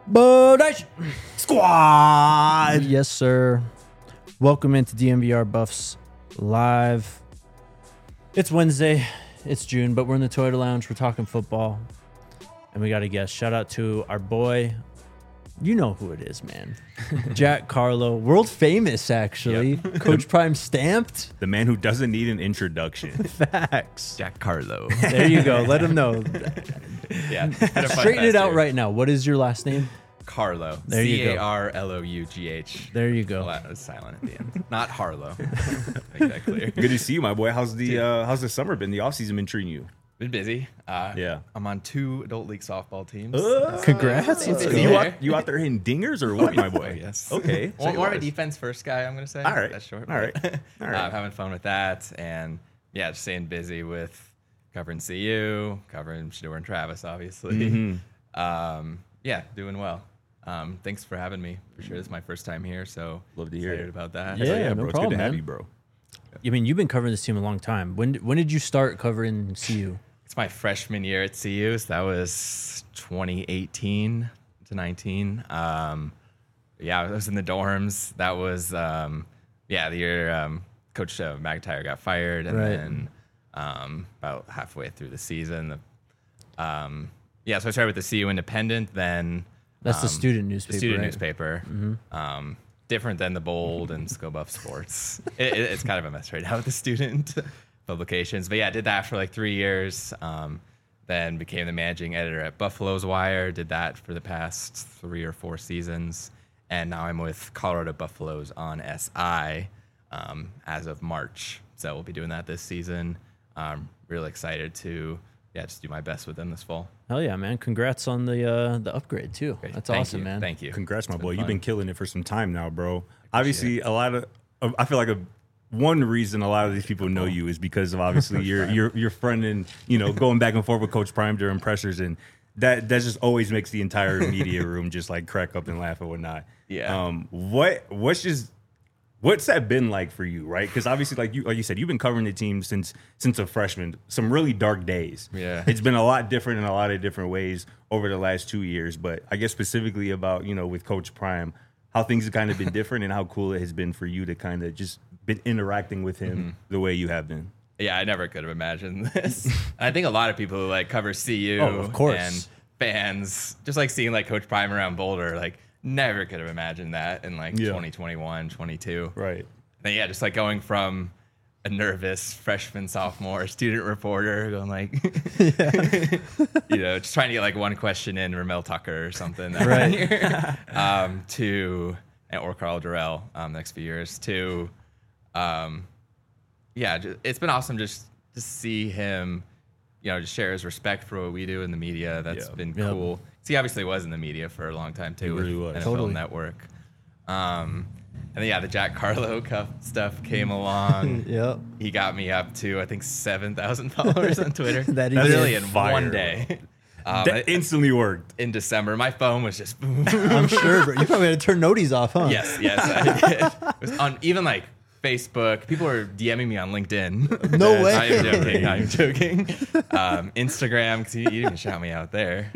Bodage Squad. Yes, sir. Welcome into DMVR Buffs Live. It's Wednesday. It's June, but we're in the Toyota Lounge. We're talking football. And we got a guest. Shout out to our boy. You know who it is, man. Jack Carlo. World famous, actually. Yep. Coach Prime stamped. The man who doesn't need an introduction. Facts. Jack Carlo. There you go. Let him know. Yeah. Straighten it out right now. What is your last name? Carlo. There you go. Carlough. There you go. Well, that was silent at the end. Not Harlow. Make that clear. Good to see you, my boy. How's the summer been? The offseason been treating you? Been busy. Yeah. I'm on 2 adult league softball teams. Congrats. Let's Busy go. there. You out there hitting dingers or what, my boy? Oh, yes. Okay. Well, more of a defense first guy, I'm going to say. All right. That's short. All right. All right. Having fun with that. And yeah, just staying busy with covering CU, covering Shador and Travis, obviously. Mm-hmm. Yeah, doing well. Thanks for having me. For sure, this is my first time here, so Love to hear excited it. about that. Yeah, no bro. It's problem, good to have man. you, bro. I mean, you've been covering this team a long time. When did you start covering CU? It's my freshman year at CU, so that was 2018 to 19. Yeah, I was in the dorms. That was the year Coach McIntyre got fired, and Right. then about halfway through the season, so I started with the CU Independent, then That's the student newspaper. the student right? newspaper. Different than the Bold and ScoBuff Sports. It's kind of a mess right now with the student publications. But yeah, I did that for like 3 years. Then became the managing editor at Buffalo's Wire. Did that for the past 3 or 4 seasons. And now I'm with Colorado Buffaloes on SI as of March. So we'll be doing that this season. Really excited to just do my best with them this fall. Hell yeah, man! Congrats on the upgrade too. Great. That's Thank awesome, you. man. Thank you. Congrats, my It's boy. been You've fun. been killing it for some time now, bro. Obviously, I feel like one reason a lot of these people know you is because of obviously your friend and going back and forth with Coach Prime during pressers, and that just always makes the entire media room just like crack up and laugh and whatnot. Yeah. What's that been like for you, right? Because obviously, like you said, you've been covering the team since a freshman. Some really dark days. Yeah. It's been a lot different in a lot of different ways over the last 2 years. But I guess specifically about with Coach Prime, how things have kind of been different and how cool it has been for you to kind of just been interacting with him the way you have been. Yeah, I never could have imagined this. And I think a lot of people who like cover CU of course. and fans, just like seeing like Coach Prime around Boulder, like never could have imagined that in like 2021, 22. Right. And yeah, just like going from a nervous freshman, sophomore student reporter going like, just trying to get like one question in Ramel Tucker or something. Right. Or Carl Durrell next few years to, it's been awesome just to see him, just share his respect for what we do in the media. That's been Yep. cool. 'Cause he obviously was in the media for a long time too. He really with was. NFL Totally. Network. And then, the Jack Carlo stuff came along. Yep. He got me up to, I think, 7,000 followers on Twitter. That Literally is in fire. one day. That instantly worked. In December, my phone was just boom. I'm sure, bro. You probably had to turn noties off, huh? Yes, I did. It was on even like Facebook. People were DMing me on LinkedIn. No way. I'm joking. Instagram, because you didn't even shout me out there.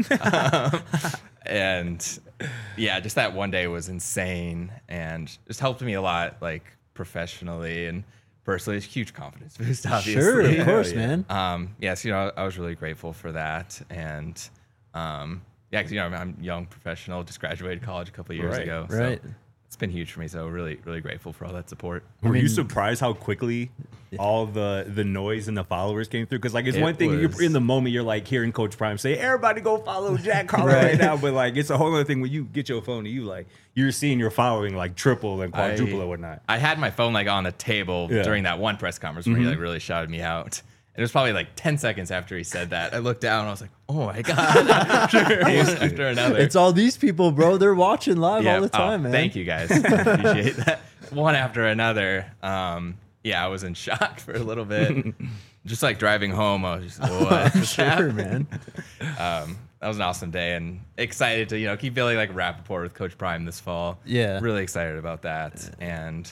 And just that one day was insane and just helped me a lot, like professionally and personally. It's a huge confidence boost, obviously. Sure, of course, yeah. man. Yes, I was really grateful for that. And because I'm a young professional, just graduated college a couple of years Right, ago. right. So it's been huge for me. So really, really grateful for all that support. Were you surprised how quickly all the noise and the followers came through? Because like it's It one thing was- you're in the moment, you're like hearing Coach Prime say, "Everybody go follow Jack Carlo right now," but like it's a whole other thing when you get your phone and you like you're seeing your following like triple and quadruple and whatnot. I had my phone like on the table Yeah. during that one press conference where he like really shouted me out. It was probably like 10 seconds after he said that. I looked down and I was like, oh my God. after another. It's all these people, bro. They're watching live all the time, man. Thank you guys. I appreciate that. One after another. I was in shock for a little bit. Just like driving home, I was just, what? Sure, man. That was an awesome day and excited to, keep building like rapport with Coach Prime this fall. Yeah. Really excited about that. And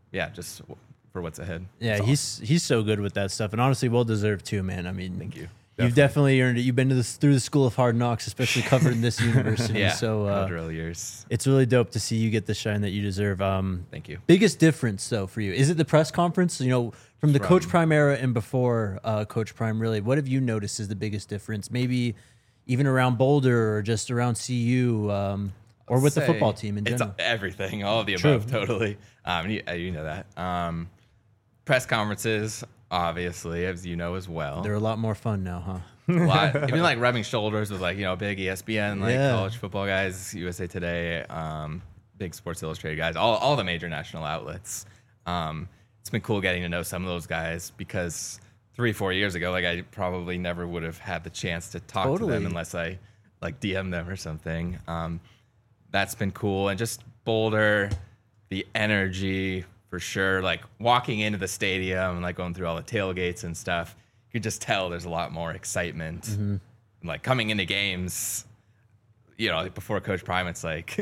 just for what's ahead. Yeah, It's awesome. he's so good with that stuff, and honestly, well deserved too, man. I mean, Thank you. You've definitely earned it. You've been through the school of hard knocks, especially covering this university. Yeah, So drill years. it's really dope to see you get the shine that you deserve. Thank you. Biggest difference, though, for you, is it the press conference? You know, from the Coach Prime era and before Coach Prime, really, what have you noticed is the biggest difference? Maybe even around Boulder or just around CU, or with the football team in general? It's everything, all of the above, totally. You know that. Press conferences, obviously, as you know as well. They're a lot more fun now, huh? A lot, even like rubbing shoulders with like, you know, big ESPN, like college football guys, USA Today, big Sports Illustrated guys, all the major national outlets. It's been cool getting to know some of those guys because 3-4 years ago, like I probably never would have had the chance to talk to them unless I like DM them or something. That's been cool. And just Boulder, the energy for sure. Like walking into the stadium and like going through all the tailgates and stuff, you could just tell there's a lot more excitement. Mm-hmm. Like coming into games, you know, like before Coach Prime, it's like,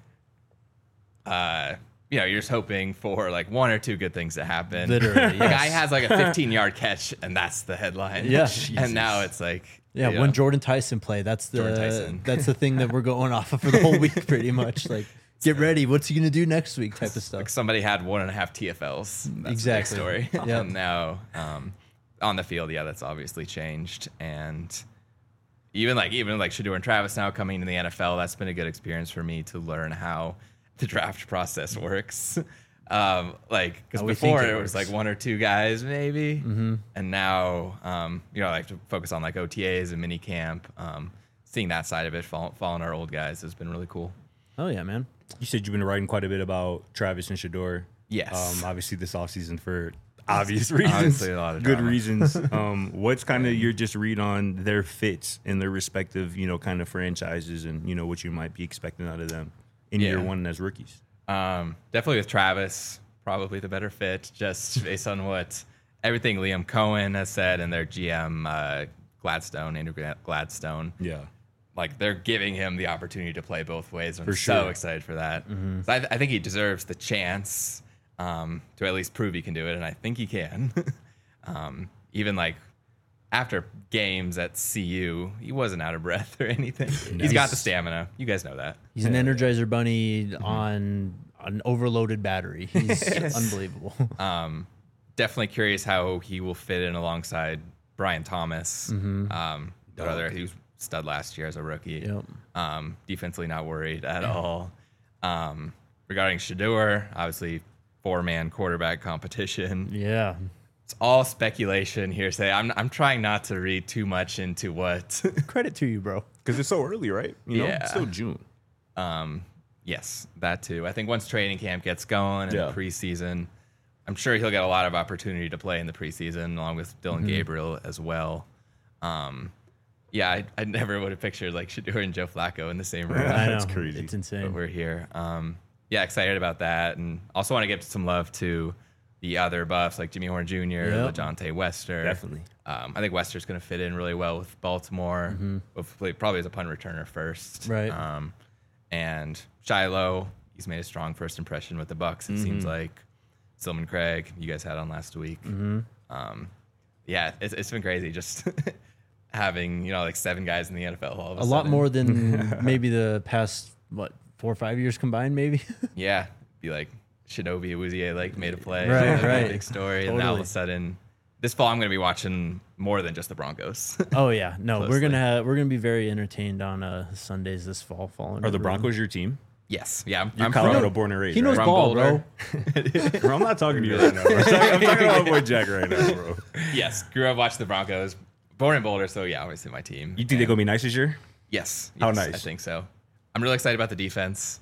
you know, you're just hoping for like one or two good things to happen. Literally, the guy has like a 15-yard catch, and that's the headline. Yeah, and now it's like, yeah, when Jordan Tyson play, that's the thing that we're going off of for the whole week, pretty much. Like, get ready. What's he gonna do next week? Type of stuff. Like somebody had 1.5 TFLs. That's exactly. The big story. And now on the field, yeah, that's obviously changed. And even like Shedeur and Travis now coming to the NFL, that's been a good experience for me to learn how the draft process works. Like, because before it was like one or two guys maybe, and now you know, I have to focus on like OTAs and mini camp. Seeing that side of it, following our old guys has been really cool. Oh yeah, man. You said you've been writing quite a bit about Travis and Shedeur. Yes. Obviously this offseason for obvious reasons. Obviously a lot of good drama. reasons. What's kind of your just read on their fits in their respective, you know, kind of franchises and, you know, what you might be expecting out of them in year one as rookies? Definitely with Travis, probably the better fit, just based on what everything Liam Cohen has said and their GM Andrew Gladstone. Yeah. Like, they're giving him the opportunity to play both ways. I'm sure. so excited for that. So I think he deserves the chance to at least prove he can do it, and I think he can. Even, like, after games at CU, he wasn't out of breath or anything. He's got the stamina. You guys know that. He's an Energizer Bunny on an overloaded battery. He's unbelievable. Definitely curious how he will fit in alongside Brian Thomas. Brother, he was stud last year as a rookie. Yep. Defensively not worried at all. Regarding Shedeur, obviously 4-man quarterback competition. Yeah. It's all speculation, hearsay. I'm trying not to read too much into what. Credit to you, bro. Because it's so early, right? You know, Yeah. it's still June. Yes, that too. I think once training camp gets going and the preseason, I'm sure he'll get a lot of opportunity to play in the preseason along with Dylan Gabriel as well. Yeah, I never would have pictured like Shedeur and Joe Flacco in the same room. I know. That's crazy. It's insane. But we're here. Yeah, excited about that. And also want to give some love to the other buffs like Jimmy Horn Jr., LeJontay Wester. Definitely. I think Wester's going to fit in really well with Baltimore. Probably as a punt returner first. Right. And Shiloh, he's made a strong first impression with the Bucs. It seems like Silman Craig, you guys had on last week. Yeah, it's been crazy just having, you know, like 7 guys in the NFL all of a sudden. lot more than maybe the past 4 or 5 years combined, maybe. Yeah, be like Shinobi Awuzie like made a play, Right, That'd be a right. big story, and now all of a sudden, this fall I'm going to be watching more than just the Broncos. Oh yeah, no, Closely. we're gonna be very entertained on Sundays this fall. Are the Broncos your team? Yes, yeah, You're I'm Colorado from, born and raised, He knows right? From ball, bro. Boulder. Bro, I'm not talking to you right now, bro. I'm talking about my boy Jack right now, bro. Yes, grew up watching the Broncos, born in Boulder, so yeah, obviously my team. You think they're going to be nice this year? Yes, How yes, nice? I think so. I'm really excited about the defense.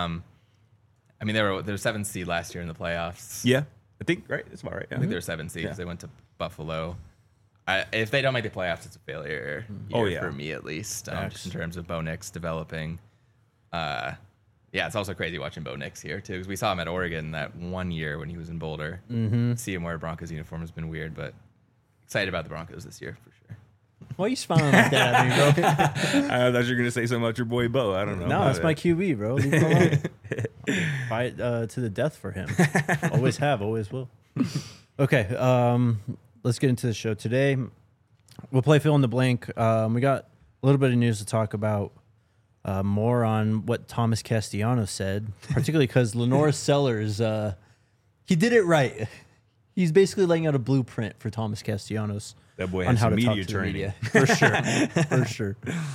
I mean, they were 7th seed last year in the playoffs. Yeah. I think, right? That's about right. Yeah. I think they were 7th seed because they went to Buffalo. If they don't make the playoffs, it's a failure year for me at least, just in terms of Bo Nix developing. Yeah, it's also crazy watching Bo Nix here too because we saw him at Oregon that one year when he was in Boulder. See him wear a Broncos uniform has been weird, but excited about the Broncos this year for sure. Why are you smiling like that at me, bro? I thought you were going to say something about your boy Bo. I don't know. No, that's my QB, bro. Leave him alone. Fight to the death for him. Always have, always will. Okay, let's get into the show today. We'll play fill in the blank. We got a little bit of news to talk about. More on what Thomas Castellanos said, particularly because Lenore Sellers, he did it right. He's basically laying out a blueprint for Thomas Castellanos. That boy on has how some to talk media to the training. media. For sure. For sure.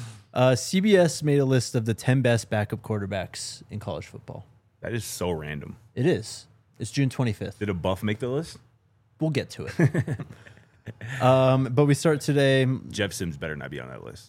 CBS made a list of the 10 best backup quarterbacks in college football. That is so random. It is. It's June 25th. Did a buff make the list? We'll get to it. But we start today. Jeff Sims better not be on that list.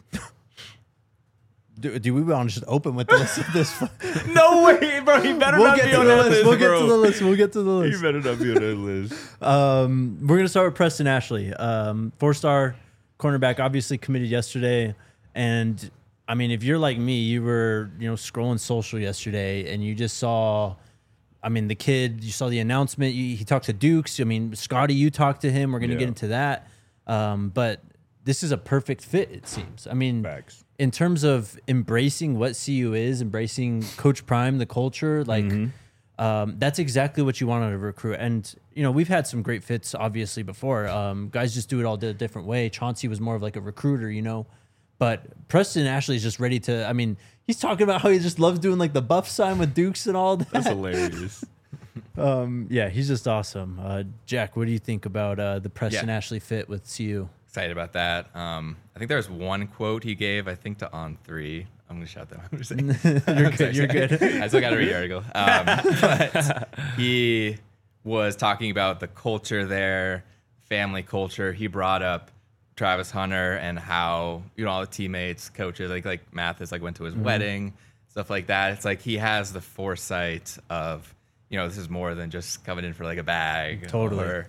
Do we want to just open with the list of this? No way, bro. He better We'll not get be to on the that list. list, We'll get bro. to the list. We'll get to the list. He better not be on that list. We're gonna start with Preston Ashley, 4-star cornerback, obviously committed yesterday. And I mean, if you're like me, you were scrolling social yesterday, and you just saw, I mean, the kid. You saw the announcement. He talked to Dukes. I mean, Scotty, you talked to him. We're gonna get into that. But this is a perfect fit, it seems. I mean, Facts. in terms of embracing what CU is, embracing Coach Prime, the culture, like. That's exactly what you want out of a recruit. And, we've had some great fits, obviously, before. Guys just do it all a different way. Chauncey was more of like a recruiter, But Preston Ashley is just ready to, I mean, he's talking about how he just loves doing like the buff sign with Dukes and all that. That's hilarious. Yeah, he's just awesome. Jack, what do you think about the Preston Ashley fit with CU? Excited about that. I think there was one quote he gave, I think, to On3. I'm going to shout that out. You're good. You're good. I still got to read the article. But he was talking about the culture there, family culture. He brought up Travis Hunter and how, all the teammates, coaches, like Mathis, went to his wedding, stuff like that. It's like he has the foresight of, this is more than just coming in for like a bag. Totally. Or,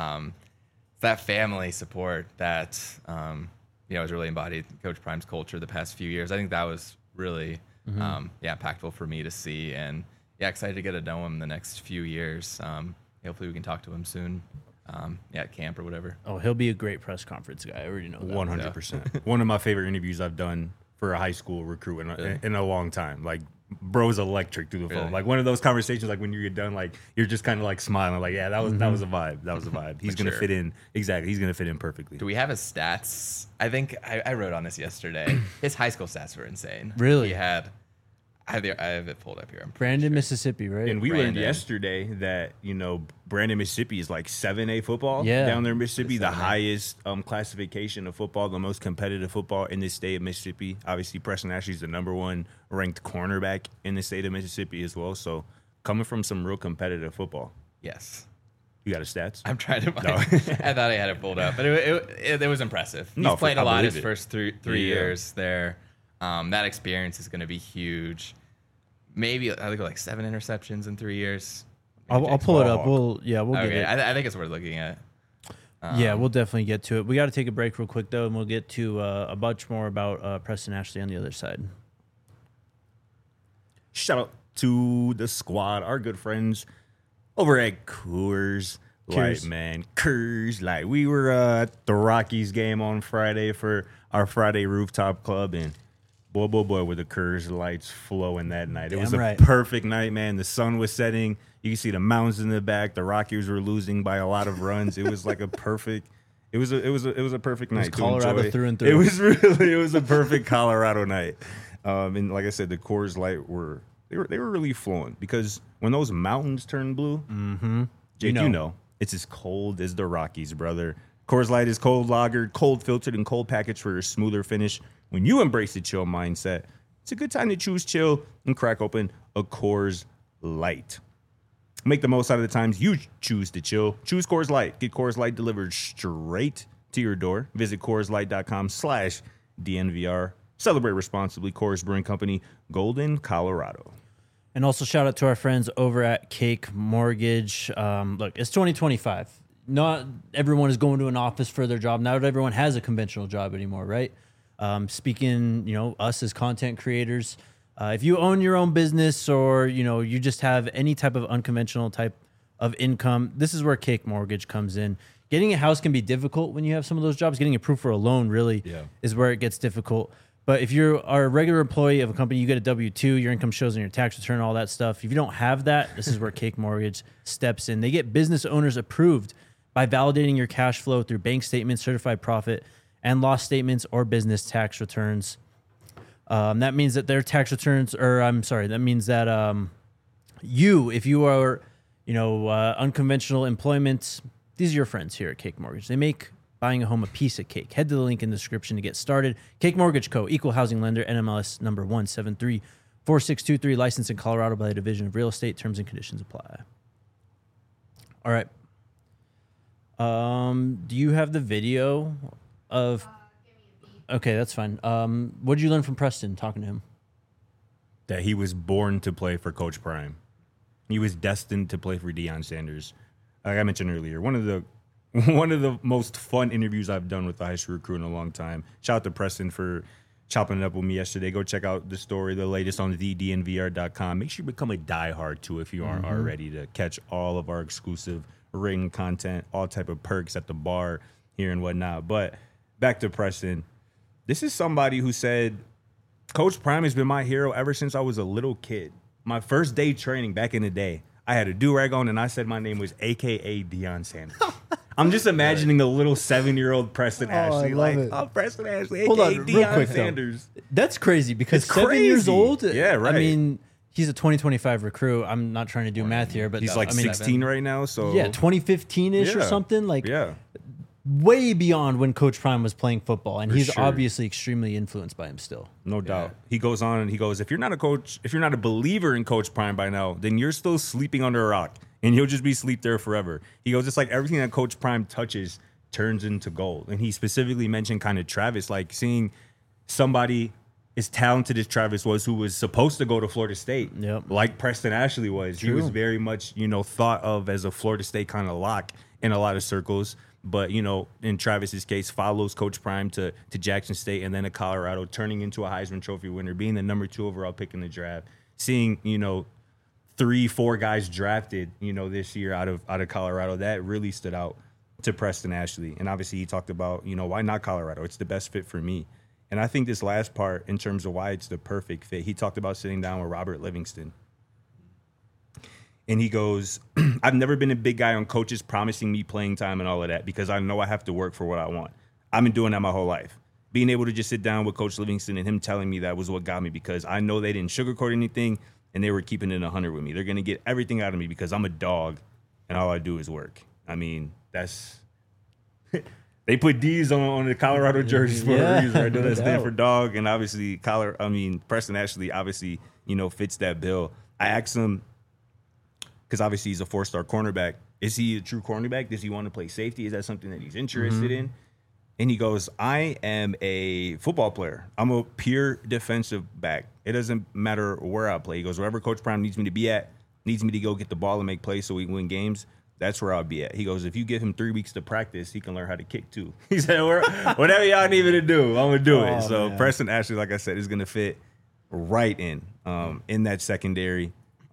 that family support that, has really embodied Coach Prime's culture the past few years. I think that was really, impactful for me to see. And, excited to get to know him the next few years. Hopefully we can talk to him soon, at camp or whatever. Oh, he'll be a great press conference guy. I already know that. 100%. One of my favorite interviews I've done for a high school recruit in a long time. Like, bro's electric through the phone. Really? Like one of those conversations, like when you get done, like you're just kind of like smiling, like, that was a vibe. That was a vibe. He's gonna fit in exactly. He's gonna fit in perfectly. Do we have his stats? I think I wrote on this yesterday. His high school stats were insane. Really? He had. I have it pulled up here. I'm pretty Brandon, sure. Mississippi, right? And we learned Brandon. yesterday that Brandon, Mississippi is like 7A football down there in Mississippi, the highest classification of football, the most competitive football in the state of Mississippi. Obviously, Preston Ashley's the number one ranked cornerback in the state of Mississippi as well. So coming from some real competitive football. Yes. You got his stats? I'm trying to find. I thought I had it pulled up, but it was impressive. He's played a lot his first three years there. That experience is going to be huge. Maybe I think like 7 interceptions in 3 years. I'll pull it up. We'll get Okay, it. I think it's worth looking at. Yeah, we'll definitely get to it. We got to take a break real quick, though, and we'll get to a bunch more about Preston Ashley on the other side. Shout out to the squad, our good friends over at Coors Light, man. Coors Light. We were at the Rockies game on Friday for our Friday rooftop club, and boy, were the Coors Lights flowing that night. It was a perfect night, man. The sun was setting. You can see the mountains in the back. The Rockies were losing by a lot of runs. It was like a perfect. It was a perfect night. Colorado through and through. It was a perfect Colorado night. And like I said, the Coors Light were really flowing because when those mountains turn blue, Jake, you know it's as cold as the Rockies, brother. Coors Light is cold lagered, cold filtered, and cold packaged for a smoother finish. When you embrace the chill mindset, it's a good time to choose chill and crack open a Coors Light. Make the most out of the times you choose to chill. Choose Coors Light. Get Coors Light delivered straight to your door. Visit CoorsLight.com/DNVR. Celebrate responsibly. Coors Brewing Company, Golden, Colorado. And also shout out to our friends over at Cake Mortgage. Look, it's 2025. Not everyone is going to an office for their job. Not everyone has a conventional job anymore, right? Speaking, us as content creators, if you own your own business or, you just have any type of unconventional type of income, this is where Cake Mortgage comes in. Getting a house can be difficult when you have some of those jobs. Getting approved for a loan really is where it gets difficult. But if you are a regular employee of a company, you get a W-2, your income shows on your tax return, all that stuff. If you don't have that, this is where Cake Mortgage steps in. They get business owners approved by validating your cash flow through bank statements, certified profit, and loss statements or business tax returns. That means that their tax returns, that means that if you are, unconventional employment, these are your friends here at Cake Mortgage. They make buying a home a piece of cake. Head to the link in the description to get started. Cake Mortgage Co., Equal Housing Lender, NMLS number 1734623, licensed in Colorado by the Division of Real Estate. Terms and conditions apply. All right. Do you have the video of... Okay, that's fine. What did you learn from Preston talking to him? That he was born to play for Coach Prime. He was destined to play for Deion Sanders. Like I mentioned earlier, one of the most fun interviews I've done with a high school recruit in a long time. Shout out to Preston for chopping it up with me yesterday. Go check out the story, the latest on thednvr.com. Make sure you become a diehard too if you aren't already, to catch all of our exclusive ring content, all type of perks at the bar here and whatnot. But back to Preston. This is somebody who said, Coach Prime has been my hero ever since I was a little kid. My first day training back in the day, I had a do-rag on and I said my name was AKA Deion Sanders. I'm just imagining a little 7-year-old Preston Ashley. Preston Ashley, AKA Deion Sanders. That's crazy because It's 7 years crazy. old. Yeah, right. I mean, he's a 2025 recruit. I'm not trying to do math here, but He's like 16 right now, so... Yeah, 2015-ish or Yeah. something. Like, Yeah. way beyond when Coach Prime was playing football, and For he's sure. obviously extremely influenced by him still. No doubt. He goes on and he goes, if you're not a coach, if you're not a believer in Coach Prime by now, then you're still sleeping under a rock and you'll just be asleep there forever. He goes, it's like everything that Coach Prime touches turns into gold. And he specifically mentioned kind of Travis, like seeing somebody as talented as Travis was, who was supposed to go to Florida State, like Preston Ashley was. True. He was very much, thought of as a Florida State kind of lock in a lot of circles. But, in Travis's case, follows Coach Prime to Jackson State and then to Colorado, turning into a Heisman Trophy winner, being the number 2 overall pick in the draft, seeing, 3-4 guys drafted, this year out of Colorado. That really stood out to Preston Ashley. And obviously he talked about, why not Colorado? It's the best fit for me. And I think this last part, in terms of why it's the perfect fit, he talked about sitting down with Robert Livingston. And he goes, I've never been a big guy on coaches promising me playing time and all of that because I know I have to work for what I want. I've been doing that my whole life. Being able to just sit down with Coach Livingston and him telling me that was what got me, because I know they didn't sugarcoat anything and they were keeping it 100 with me. They're going to get everything out of me because I'm a dog and all I do is work. I mean, that's... They put D's on the Colorado jerseys for a reason. Right? That stand for dog. And obviously, Preston Ashley obviously, fits that bill. I asked him, because obviously he's a 4-star cornerback. Is he a true cornerback? Does he want to play safety? Is that something that he's interested in? And he goes, I am a football player. I'm a pure defensive back. It doesn't matter where I play. He goes, wherever Coach Prime needs me to be at, needs me to go get the ball and make plays so we can win games, that's where I'll be at. He goes, if you give him 3 weeks to practice, he can learn how to kick too. He said, whatever y'all need me to do, I'm going to do it. So man. Preston Ashley, like I said, is going to fit right in that secondary.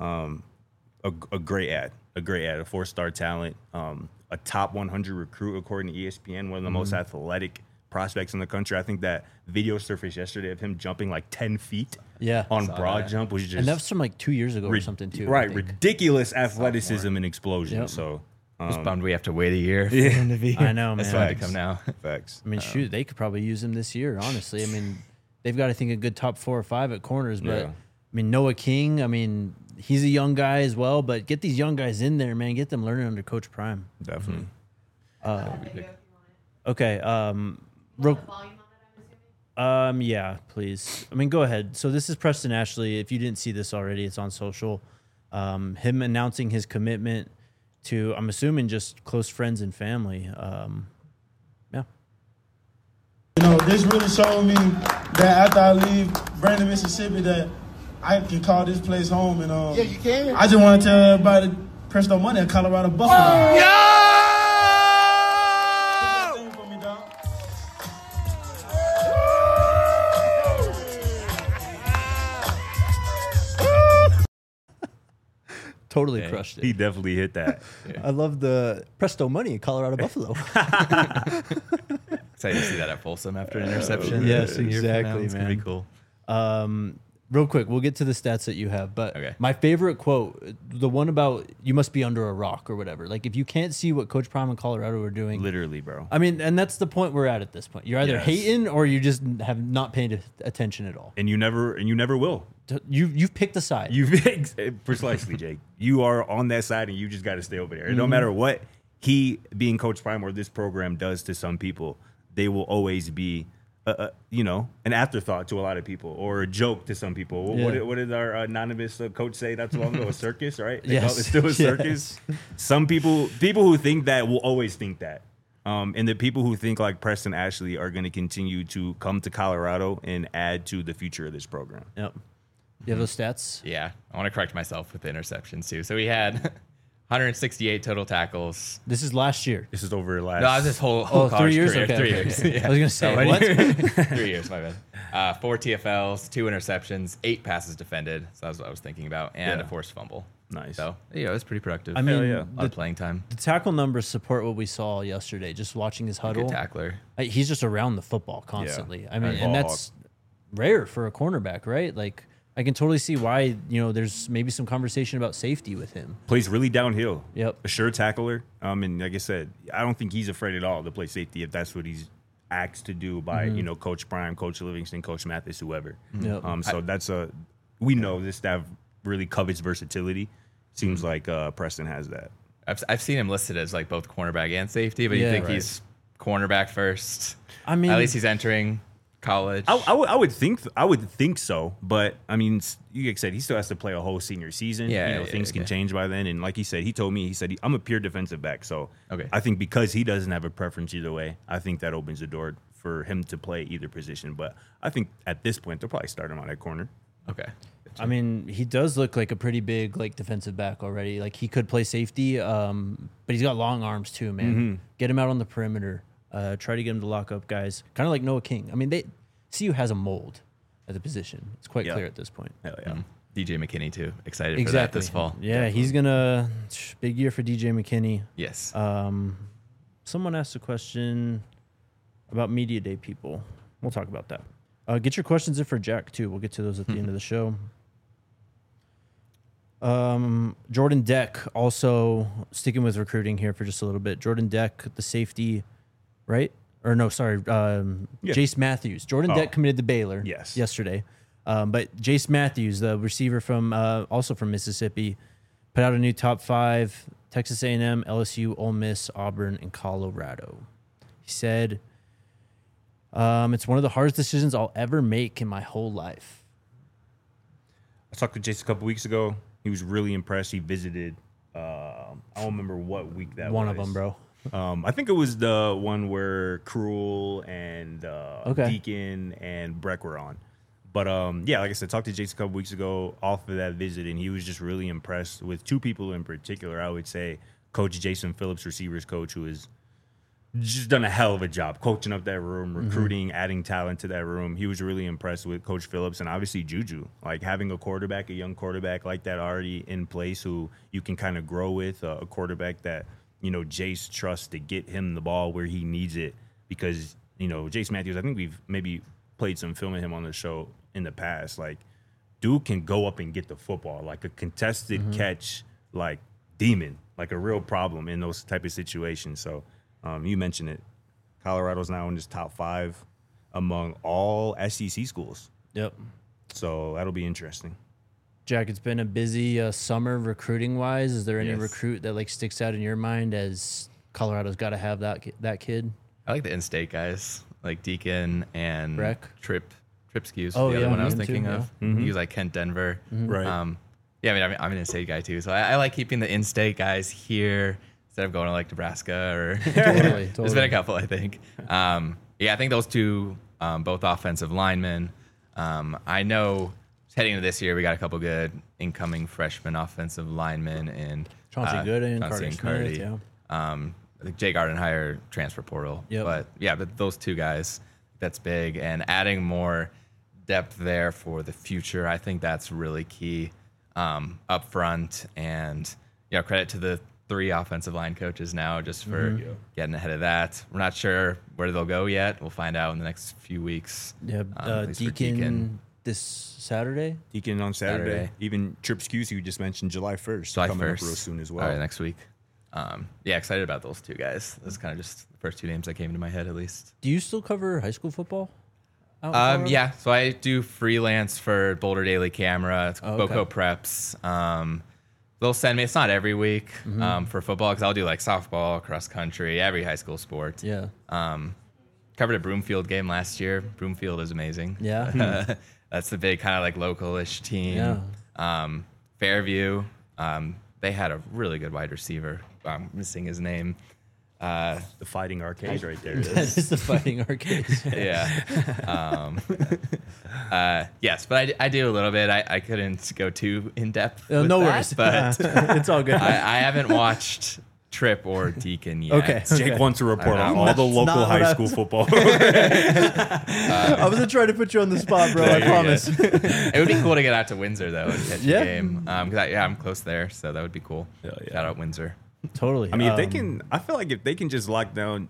A great ad, a 4-star talent, a top 100 recruit according to ESPN, one of the most athletic prospects in the country. I think that video surfaced yesterday of him jumping like 10 feet on broad jump was just... And that was from like 2 years ago or something too. Right, ridiculous athleticism and explosion. Yep. So I was bummed we have to wait a year for him to be... I know, man. That's why to come now. Facts. I mean, shoot, they could probably use him this year, honestly. I mean, they've got, I think, a good top 4 or 5 at corners, but... I mean, Noah King, he's a young guy as well, but get these young guys in there, man. Get them learning under Coach Prime. Definitely. Okay. Yeah, please. Go ahead. So this is Preston Ashley. If you didn't see this already, it's on social. Him announcing his commitment to, I'm assuming, just close friends and family. This really showed me that after I leave Brandon, Mississippi, that I can call this place home. And yeah, you can. I just want to tell everybody to press no money at Colorado Buffalo. Oh! Yo! For me, dog. Totally crushed it. He definitely hit that. I love the Presto Money at Colorado Buffalo. Excited to see that at Folsom after an interception. Yes, exactly, It's man. gonna be cool. real quick, we'll get to the stats that you have. But Okay. my favorite quote, the one about you must be under a rock or whatever. Like if you can't see what Coach Prime and Colorado are doing, Literally, bro. I mean, and that's the point we're at this point. You're either Yes. hating or you just have not paid attention at all. And you never will. You've picked a side. Precisely, Jake. You are on that side, and you just got to stay over there. Mm-hmm. No matter what he, being Coach Prime, or this program does to some people, they will always be, an afterthought to a lot of people, or a joke to some people. Yeah. What did our anonymous coach say not too long ago? A circus, right? They Yes. call it still a circus. Yes. Some people who think that will always think that. And the people who think like Preston Ashley are going to continue to come to Colorado and add to the future of this program. Yep. You have those stats? Yeah, I want to correct myself with the interceptions too. So we had 168 total tackles. This is last year. This is over last. No, I was this whole Oh, 3 college years? career. Okay, 3 okay, years. okay. Yeah. I was going to say, So, what? 3 years, my bad. 4 TFLs, 2 interceptions, 8 passes defended. So that's what I was thinking about, and Yeah. a forced fumble. Nice. So yeah, it was pretty productive. I mean, yeah. a lot the, of playing time. the tackle numbers support what we saw yesterday, just watching his huddle. Good tackler. He's just around the football constantly. I mean, Ball and that's rare for a cornerback, right? Like, I can totally see why, there's maybe some conversation about safety with him. Plays really downhill. Yep. A sure tackler. And like I said, I don't think he's afraid at all to play safety if that's what he's asked to do by, Coach Prime, Coach Livingston, Coach Mathis, whoever. Yep. So we know this staff really covets versatility. Seems like Preston has that. I've seen him listed as like both cornerback and safety, but Yeah. you think Right. he's cornerback first. I mean, At least he's entering college. I would think so, but I mean, like I said, he still has to play a whole senior season. Yeah, Things can okay. change by then. And like he said, I'm a pure defensive back. So Okay. I think because he doesn't have a preference either way, I think that opens the door for him to play either position. But I think at this point, they'll probably start him on that corner. Okay. I mean, he does look like a pretty big defensive back already. Like he could play safety, but he's got long arms too, man. Get him out on the perimeter. Try to get him to lock up guys. Kind of like Noah King. I mean, CU has a mold at the position. It's quite Yeah. clear at this point. Hell yeah. DJ McKinney too. Excited for that this fall. Yeah, he's gonna big year for DJ McKinney. Yes. Someone asked a question about media day people. We'll talk about that. Get your questions in for Jack too. We'll get to those at the end of the show. Jordan Deck, also sticking with recruiting here for just a little bit. Jordan Deck, the safety, right? Or no, sorry, Jace Matthews. Jordan Deck committed to Baylor yesterday. But Jace Matthews, the receiver from also from Mississippi, put out a new top 5: Texas A&M, LSU, Ole Miss, Auburn, and Colorado. He said, it's one of the hardest decisions I'll ever make in my whole life. I talked to Jace a couple weeks ago. He was really impressed. He visited. I don't remember what week that was. One of them, bro. I think it was the one where Cruel and Okay. Deacon and Breck were on. But yeah, like I said, talked to Jace a couple weeks ago off of that visit, and he was just really impressed with 2 people in particular. I would say Coach Jason Phillips, receivers coach, who has just done a hell of a job coaching up that room, recruiting, adding talent to that room. He was really impressed with Coach Phillips, and obviously Juju. Like having a young quarterback like that already in place who you can kind of grow with, a quarterback that, Jace trusts to get him the ball where he needs it. Because, Jace Matthews, I think we've maybe played some film of him on the show in the past. Like, dude can go up and get the football, like a contested catch, like demon, like a real problem in those type of situations. So, you mentioned it. Colorado's now in this top 5 among all SEC schools. Yep. So that'll be interesting. Jack, it's been a busy summer recruiting wise. Is there any Yes. recruit that sticks out in your mind as Colorado's got to have that kid? I like the in-state guys like Deacon and Breck? Tripskews. Oh, the yeah, other one I was him too, thinking yeah. of. He was like Kent Denver. Right. Yeah, I mean, I'm an in-state guy too, so I like keeping the in-state guys here instead of going to Nebraska or. Totally. There's been a couple, I think. Yeah, I think those 2, both offensive linemen. I know heading into this year, we got a couple good incoming freshman offensive linemen and Chauncey Gooden, Chauncey Carter and Smith, Cardi. yeah. I think Jay Gardenhire transfer portal. Yep. But yeah, but those 2 guys, that's big, and adding more depth there for the future, I think that's really key up front. And credit to the 3 offensive line coaches now just for getting ahead of that. We're not sure where they'll go yet. We'll find out in the next few weeks. Yeah, at least for Deacon this Saturday. Deacon on Saturday. Saturday. Even Trip Scusi, you just mentioned July 1st. July coming 1st. up real soon as well. All right, next week. Yeah, excited about those two guys. That's kind of just the first two names that came into my head, at least. Do you still cover high school football? out in Colorado? Yeah, so I do freelance for Boulder Daily Camera. It's Oh, okay. Boco Preps. They'll send me. It's not every week for football because I'll do like softball, cross country, every high school sport. Yeah. Covered a Broomfield game last year. Broomfield is amazing. Yeah. That's the big kind of like local-ish team. Yeah. Fairview. They had a really good wide receiver. I'm missing his name. The Fighting Arcades right there. That is the Fighting Arcades. Yeah. Yes, but I do a little bit. I couldn't go too in depth. No with that, worries. but It's all good. I haven't watched Trip or Deacon yet. Okay. Jake wants to report on all That's the local not what high I school was- football. I wasn't trying to put you on the spot, bro. I You're promise. It would be cool to get out to Windsor though and catch Yeah. a game. Because I'm close there, so that would be cool. Hell yeah. Shout out Windsor. Totally. I mean, if they can, I feel like if they can just lock down,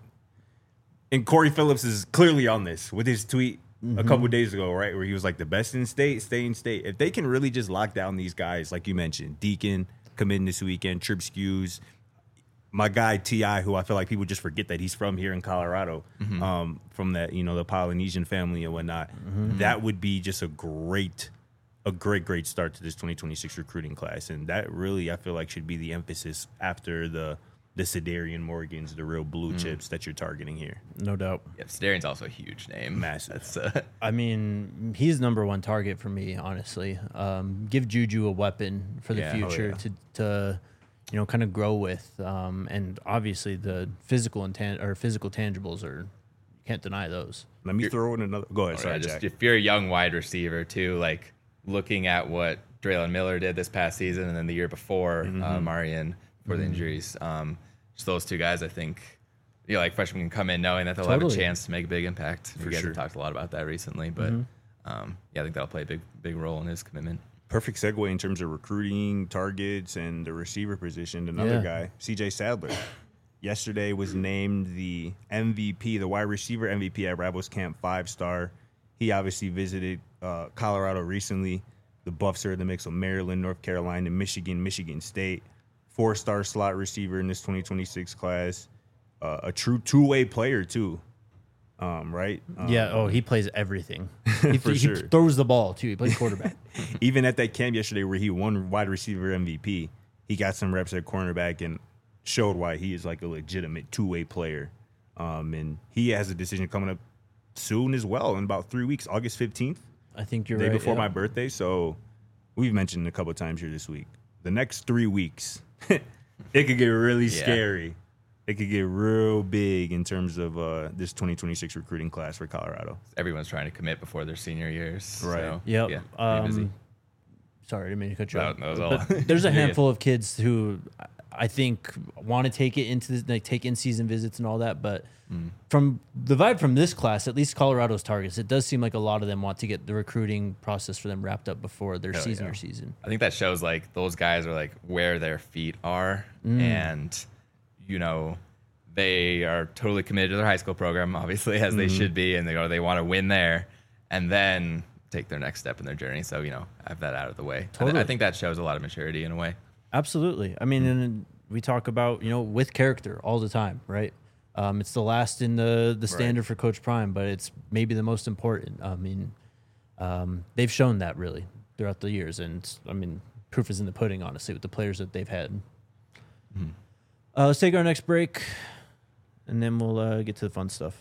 and Corey Phillips is clearly on this with his tweet a couple days ago, right, where he was like, the best in state, stay in state. If they can really just lock down these guys, like you mentioned, Deacon committing this weekend, Trip Skews, my guy T.I., who I feel like people just forget that he's from here in Colorado, from that, the Polynesian family and whatnot, that would be just a great start to this 2026 recruiting class. And that really, I feel like, should be the emphasis after the Sedarian Morgans, the real blue chips that you're targeting here. No doubt. Yeah, Starian's also a huge name. Massive. That's I mean, he's number one target for me, honestly. Give Juju a weapon for the Yeah. future to kind of grow with. And obviously the physical tangibles are, you can't deny those. Let me throw in another. Go ahead. Sorry, just Jack. if you're a young wide receiver too, like looking at what Draylon Miller did this past season and then the year before, Marion for the injuries. Just those two guys, I think, like freshmen can come in knowing that they'll have Totally. a chance to make a big impact. You guys sure. have talked a lot about that recently, but I think that'll play a big role in his commitment. Perfect segue in terms of recruiting targets and the receiver position. Another Yeah. guy, CJ Sadler, yesterday was named the MVP, the wide receiver MVP at Ravos Camp 5-star. He obviously visited Colorado recently. The Buffs are in the mix of Maryland, North Carolina, Michigan State. 4-star slot receiver in this 2026 class. A true two-way player too, right? Yeah. He plays everything. He sure. throws the ball too. He plays quarterback. Even at that camp yesterday where he won wide receiver MVP, he got some reps at cornerback and showed why he is like a legitimate two-way player. And he has a decision coming up soon as well in about 3 weeks, August 15th, I think you're day right. before yeah. my birthday. So we've mentioned a couple of times here this week. The next 3 weeks, it could get really scary. It could get real big in terms of this 2026 recruiting class for Colorado. Everyone's trying to commit before their senior years. Right. So, Yep. Yeah, pretty busy. Sorry, I didn't mean to cut you No, off. that was But all. there's a Yeah. handful of kids who I think want to take it into take in-season visits and all that. But from the vibe from this class, at least Colorado's targets, it does seem like a lot of them want to get the recruiting process for them wrapped up before their season. I think that shows like those guys are like where their feet are, and they are totally committed to their high school program, obviously as they should be, and they want to win there, and then take their next step in their journey. So have that out of the way. Totally. I think that shows a lot of maturity in a way. Absolutely. I mean, and we talk about, with character all the time, right? It's the last in the standard for Coach Prime, but it's maybe the most important. I mean, they've shown that really throughout the years. And I mean, proof is in the pudding, honestly, with the players that they've had. Let's take our next break, and then we'll get to the fun stuff.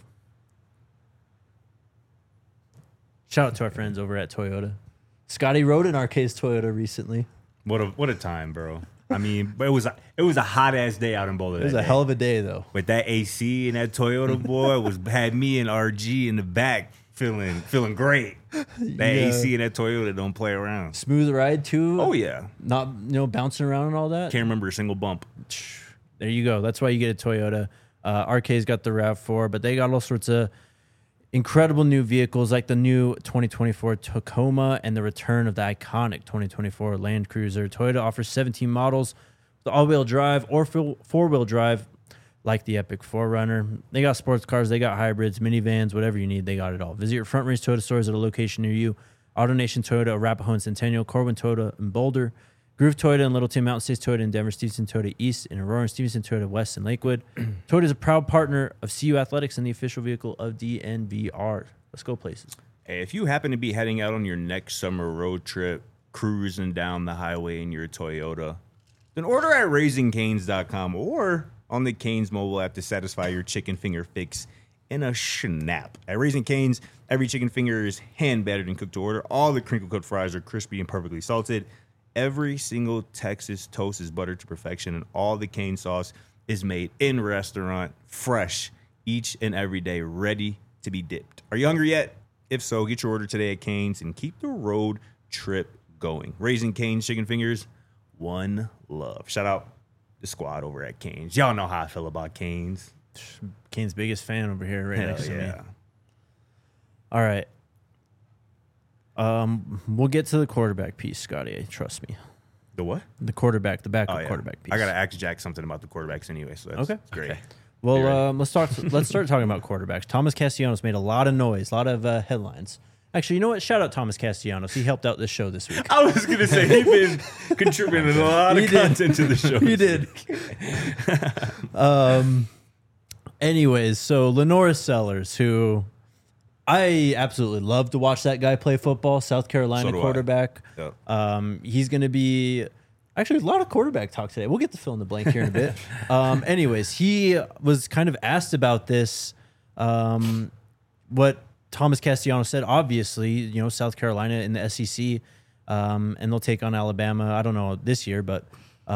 Shout out to our friends over at Toyota. Scotty rode in our case Toyota recently. What a time, bro. I mean, but it was a hot ass day out in Boulder. It was a hell of a day, though. with that AC and that Toyota boy had me and RG in the back feeling great. That AC and that Toyota don't play around. Smooth ride, too. Oh yeah, Not bouncing around and all that. can't remember a single bump. There you go. That's why you get a Toyota. RK's got the RAV4, but they got all sorts of incredible new vehicles like the new 2024 Tacoma and the return of the iconic 2024 Land Cruiser. Toyota offers 17 models with all-wheel drive or four-wheel drive like the Epic 4Runner. They got sports cars, they got hybrids, minivans, whatever you need, they got it all. Visit your Front Range Toyota stores at a location near you AutoNation Toyota, Arapahoe and Centennial, Corwin Toyota in Boulder, Groove Toyota in Littleton, Mountain States Toyota in Denver, Stevenson Toyota East in Aurora, and Stevenson Toyota West in Lakewood. Toyota is a proud partner of CU Athletics and the official vehicle of DNVR. Let's go places. Hey, if you happen to be heading out on your next summer road trip, cruising down the highway in your Toyota, then order at RaisingCanes.com or on the Canes mobile app to satisfy your chicken finger fix in a snap. At Raising Canes, every chicken finger is hand battered and cooked to order. All the crinkle cut fries are crispy and perfectly salted. Every single Texas toast is buttered to perfection, and all the cane sauce is made in restaurant, fresh, each and every day, ready to be dipped. Are you hungry yet? If so, get your order today at Canes and keep the road trip going. Raising Canes chicken fingers, one love. Shout out the squad over at Canes. Y'all know how I feel about Canes. Kane's biggest fan over here right next to me. Yeah. All right. We'll get to the quarterback piece, Scotty. Trust me. The what? The backup quarterback piece. I gotta ask Jack something about the quarterbacks anyway, so that's Okay. great. Okay. Well, let's start talking about quarterbacks. Thomas Castellanos made a lot of noise, a lot of headlines. Actually, you know what? Shout out Thomas Castellanos. He helped out this show this week. I was gonna say he's been contributing a lot of content to the show. He did. Anyways, so Lenora Sellers, who I absolutely love to watch that guy play football, South Carolina So do I. quarterback. Yep. He's going to be actually a lot of quarterback talk today. We'll get to fill in the blank here in a bit. Anyways, he was kind of asked about this. What Thomas Castellanos said, obviously, you know, South Carolina in the SEC, and they'll take on Alabama. I don't know this year, but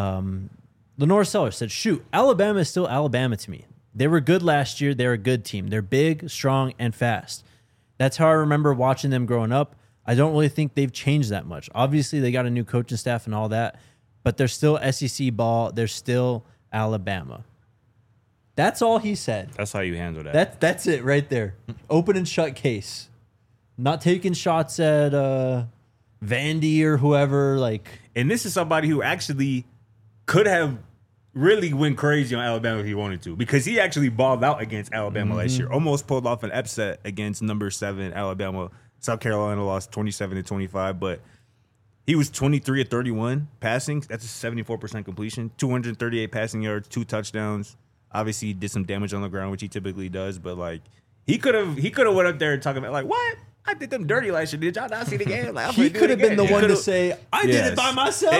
Lenora Sellers said, shoot, Alabama is still Alabama to me. They were good last year. They're a good team. They're big, strong, and fast. That's how I remember watching them growing up. I don't really think they've changed that much. Obviously, they got a new coaching staff and all that, but they're still SEC ball. They're still Alabama. That's all he said. That's how you handle that. That's it right there. Open and shut case. Not taking shots at Vandy or whoever. Like, And this is somebody who actually could have really went crazy on Alabama if he wanted to, because he actually balled out against Alabama last year. Almost pulled off an upset against number 7 Alabama. South Carolina lost 27-25, but he was 23 of 31 passing. That's a 74% completion, 238 passing yards, 2 touchdowns. Obviously, he did some damage on the ground, which he typically does, but like he could have went up there and talking about like, what? I did them dirty last year. Did y'all not see the game? Like, he could have been the one to say, I did it by myself.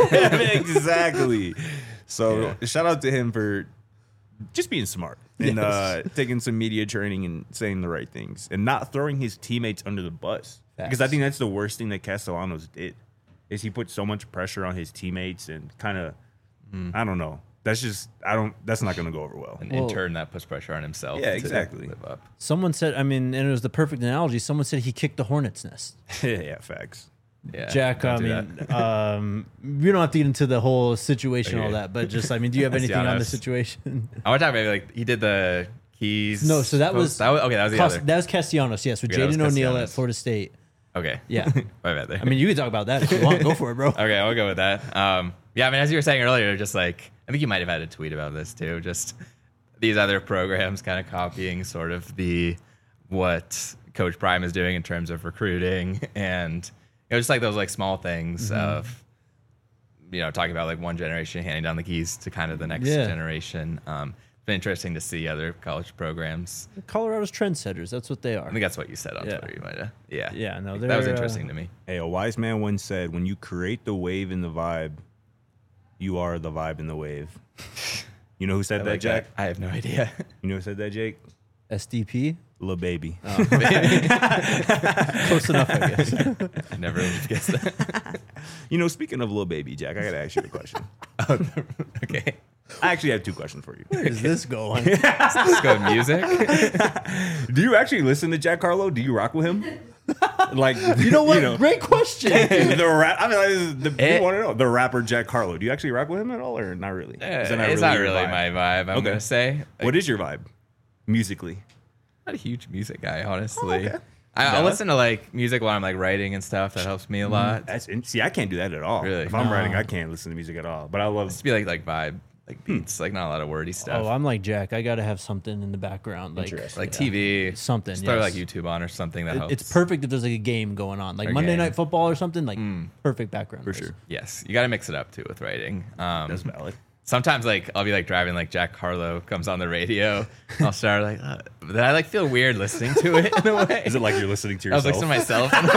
Exactly. So shout out to him for just being smart and taking some media training and saying the right things and not throwing his teammates under the bus. Because I think that's the worst thing that Castellanos did, is he put so much pressure on his teammates and kind of, I don't know. That's not going to go over well. And in turn, that puts pressure on himself. Yeah, to exactly. live up. Someone said, I mean, and it was the perfect analogy. Someone said he kicked the hornet's nest. Yeah, facts. Yeah, Jack, I don't do mean, that. we don't have to get into the whole situation, all Okay. that, but just, I mean, do you have anything on the honest. situation? I want to talk maybe like he did the keys. No, so that was okay. That was the other. That was Castellanos, yes, with Okay, that was Jaden O'Neal at Castellanos. Florida State. Okay. Yeah. My bad there. I mean, you can talk about that if you want. Go for it, bro. Okay, I'll go with that. Yeah, I mean, as you were saying earlier, just like I think you might have had a tweet about this too. Just these other programs kind of copying sort of what Coach Prime is doing in terms of recruiting, and just like those like small things of talking about like one generation handing down the keys to kind of the next generation. It's been interesting to see other college programs. Colorado's trendsetters. That's what they are. I think that's what you said on Twitter. You might have. Yeah. Yeah, no, That was they're, interesting to me. Hey, a wise man once said, when you create the wave and the vibe, you are the vibe and the wave. You know who said I that, like Jack? I have no idea. You know who said that, Jake? SDP. Lil Baby. Close enough, I guess. I never would have guessed that. Speaking of Lil Baby, Jack, I got to ask you a question. Okay. I actually have 2 questions for you. Where is this going? Let's go with music. Do you actually listen to Jack Harlow? Do you rock with him? Like, You know what? Great question. the rap. I mean, you want to know the rapper Jack Harlow. Do you actually rock with him at all, or not really? Is that It's not your really vibe? my vibe, I'm going to say. What is your vibe, musically? I'm not a huge music guy, honestly. okay. I listen to like music while I'm like writing and stuff. That helps me a lot. See, I can't do that at all. Really? If I'm No. writing, I can't listen to music at all. But I love. Just be like vibe like beats, like not a lot of wordy stuff. Oh, I'm like Jack. I got to have something in the background, like like TV, something. Just throw yes. like YouTube on or something that helps. It's perfect if there's like a game going on, like Or Monday game. Night Football or something. Like perfect background For noise. sure. Yes, you got to mix it up too with writing. That's valid. Sometimes like I'll be like driving, like Jack Harlow comes on the radio. I'll start like, then I like feel weird listening to it in a way. Is it like you're listening to I was yourself? listening to myself in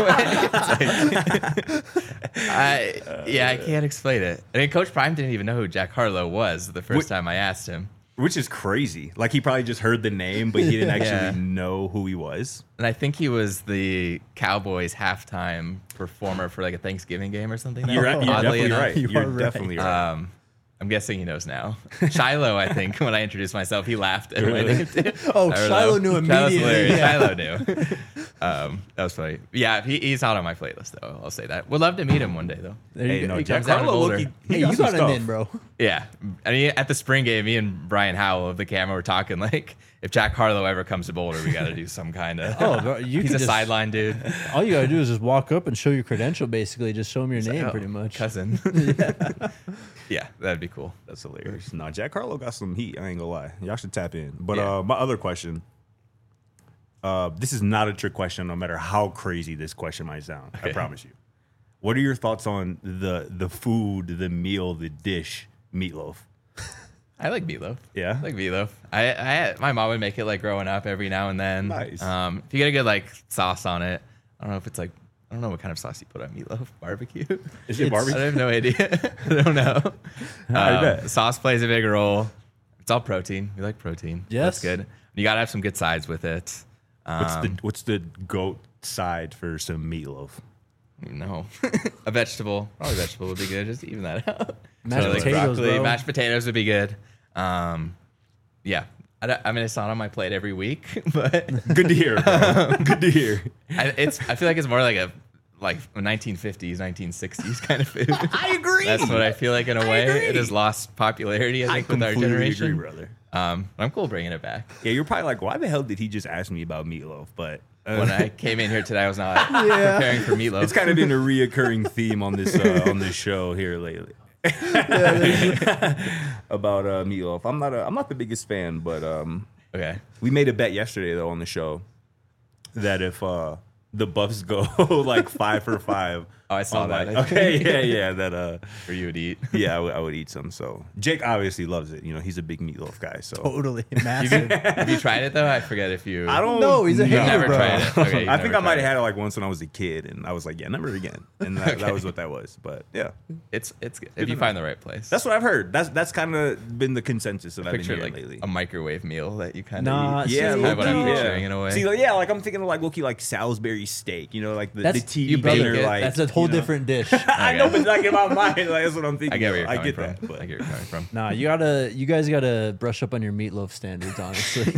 a way. It's like, I can't explain it. I mean, Coach Prime didn't even know who Jack Harlow was the first time I asked him. Which is crazy. Like he probably just heard the name, but he didn't actually Yeah. know who he was. And I think he was the Cowboys halftime performer for like a Thanksgiving game or something. You're oddly definitely enough. right. You You're are right. definitely right. I'm guessing he knows now. Shiloh, I think, when I introduced myself, he laughed at my name too. Oh, I don't Shiloh know. knew Shiloh's immediately. hilarious. Yeah. Shiloh knew. That was funny. Yeah, he's not on my playlist though. I'll say that. Would love to meet him one day though. There you Hey, go. no, He Jack comes down to Harlow, Boulder. look, he Hey, got you some got him stuff. in, bro. Yeah, I mean, at the spring game, me and Brian Howell of the camera were talking like, if Jack Harlow ever comes to Boulder, we got to do some kind of. Oh, bro, you he's can a just- sideline dude. All you gotta do is just walk up and show your credential. Basically, just show them your name, Oh, pretty much. cousin. Yeah, that'd be cool. That's hilarious. No, Jack Harlow got some heat. I ain't gonna lie. Y'all should tap in. But Yeah. my other question. This is not a trick question, no matter how crazy this question might sound. I Okay. promise you. What are your thoughts on the food, the meal, the dish, meatloaf? I like meatloaf. Yeah? I like meatloaf. My mom would make it like growing up every now and then. Nice. If you get a good like sauce on it, I don't know if it's like I don't know what kind of sauce you put on meatloaf. Barbecue. Is it I barbecue? have no idea. I don't know. I bet. Sauce plays a big role. It's all protein. We like protein. Yes. That's good. You gotta have some good sides with it. What's the goat side for some meatloaf? No, a vegetable. Probably vegetable would be good. Just even that out. Mashed So, like, potatoes, broccoli, bro. mashed potatoes would be good. Yeah. I mean, it's not on my plate every week, but Good to hear, bro. Good to hear. I feel like it's more like a 1950s, 1960s kind of food. I agree. That's what I feel like in a way. agree. It has lost popularity, I I think, with our completely generation. agree, brother. I'm cool bringing it back. Yeah, you're probably like, why the hell did he just ask me about meatloaf? But When I came in here today, I was not preparing for meatloaf. it's kind of been a reoccurring theme on this show here lately. About meatloaf. I'm not the biggest fan, but Okay. we made a bet yesterday though on the show that if the Buffs go like 5 for 5. Oh, I saw on, that. like- okay, yeah, that Or you would eat. yeah, I would eat some. So Jake obviously loves it. You know, he's a big meatloaf guy. So Totally massive. Have you tried it though? I forget if you. I don't No, he's a know. hater, Never bro. tried it. Okay, you've I think never I might tried have had it like once when I was a kid, and I was like, yeah, never again. And that was what that was. But yeah, It's good. If you find the right place. that's what I've heard. That's kind of been the consensus that I've been picture hearing like lately. a microwave meal that you kind of Nah, eat. see, Yeah, That's kind of what I'm no. picturing in a way. See, like, yeah, like I'm thinking of like low-key like Salisbury steak, you know, like the That's TV you bake dinner, it. like That's a whole you know? different dish. I know, but like in my mind, like that's what I'm thinking. I get where you're I coming get from. that, but I get where you're coming from. Nah, you guys gotta brush up on your meatloaf standards, honestly.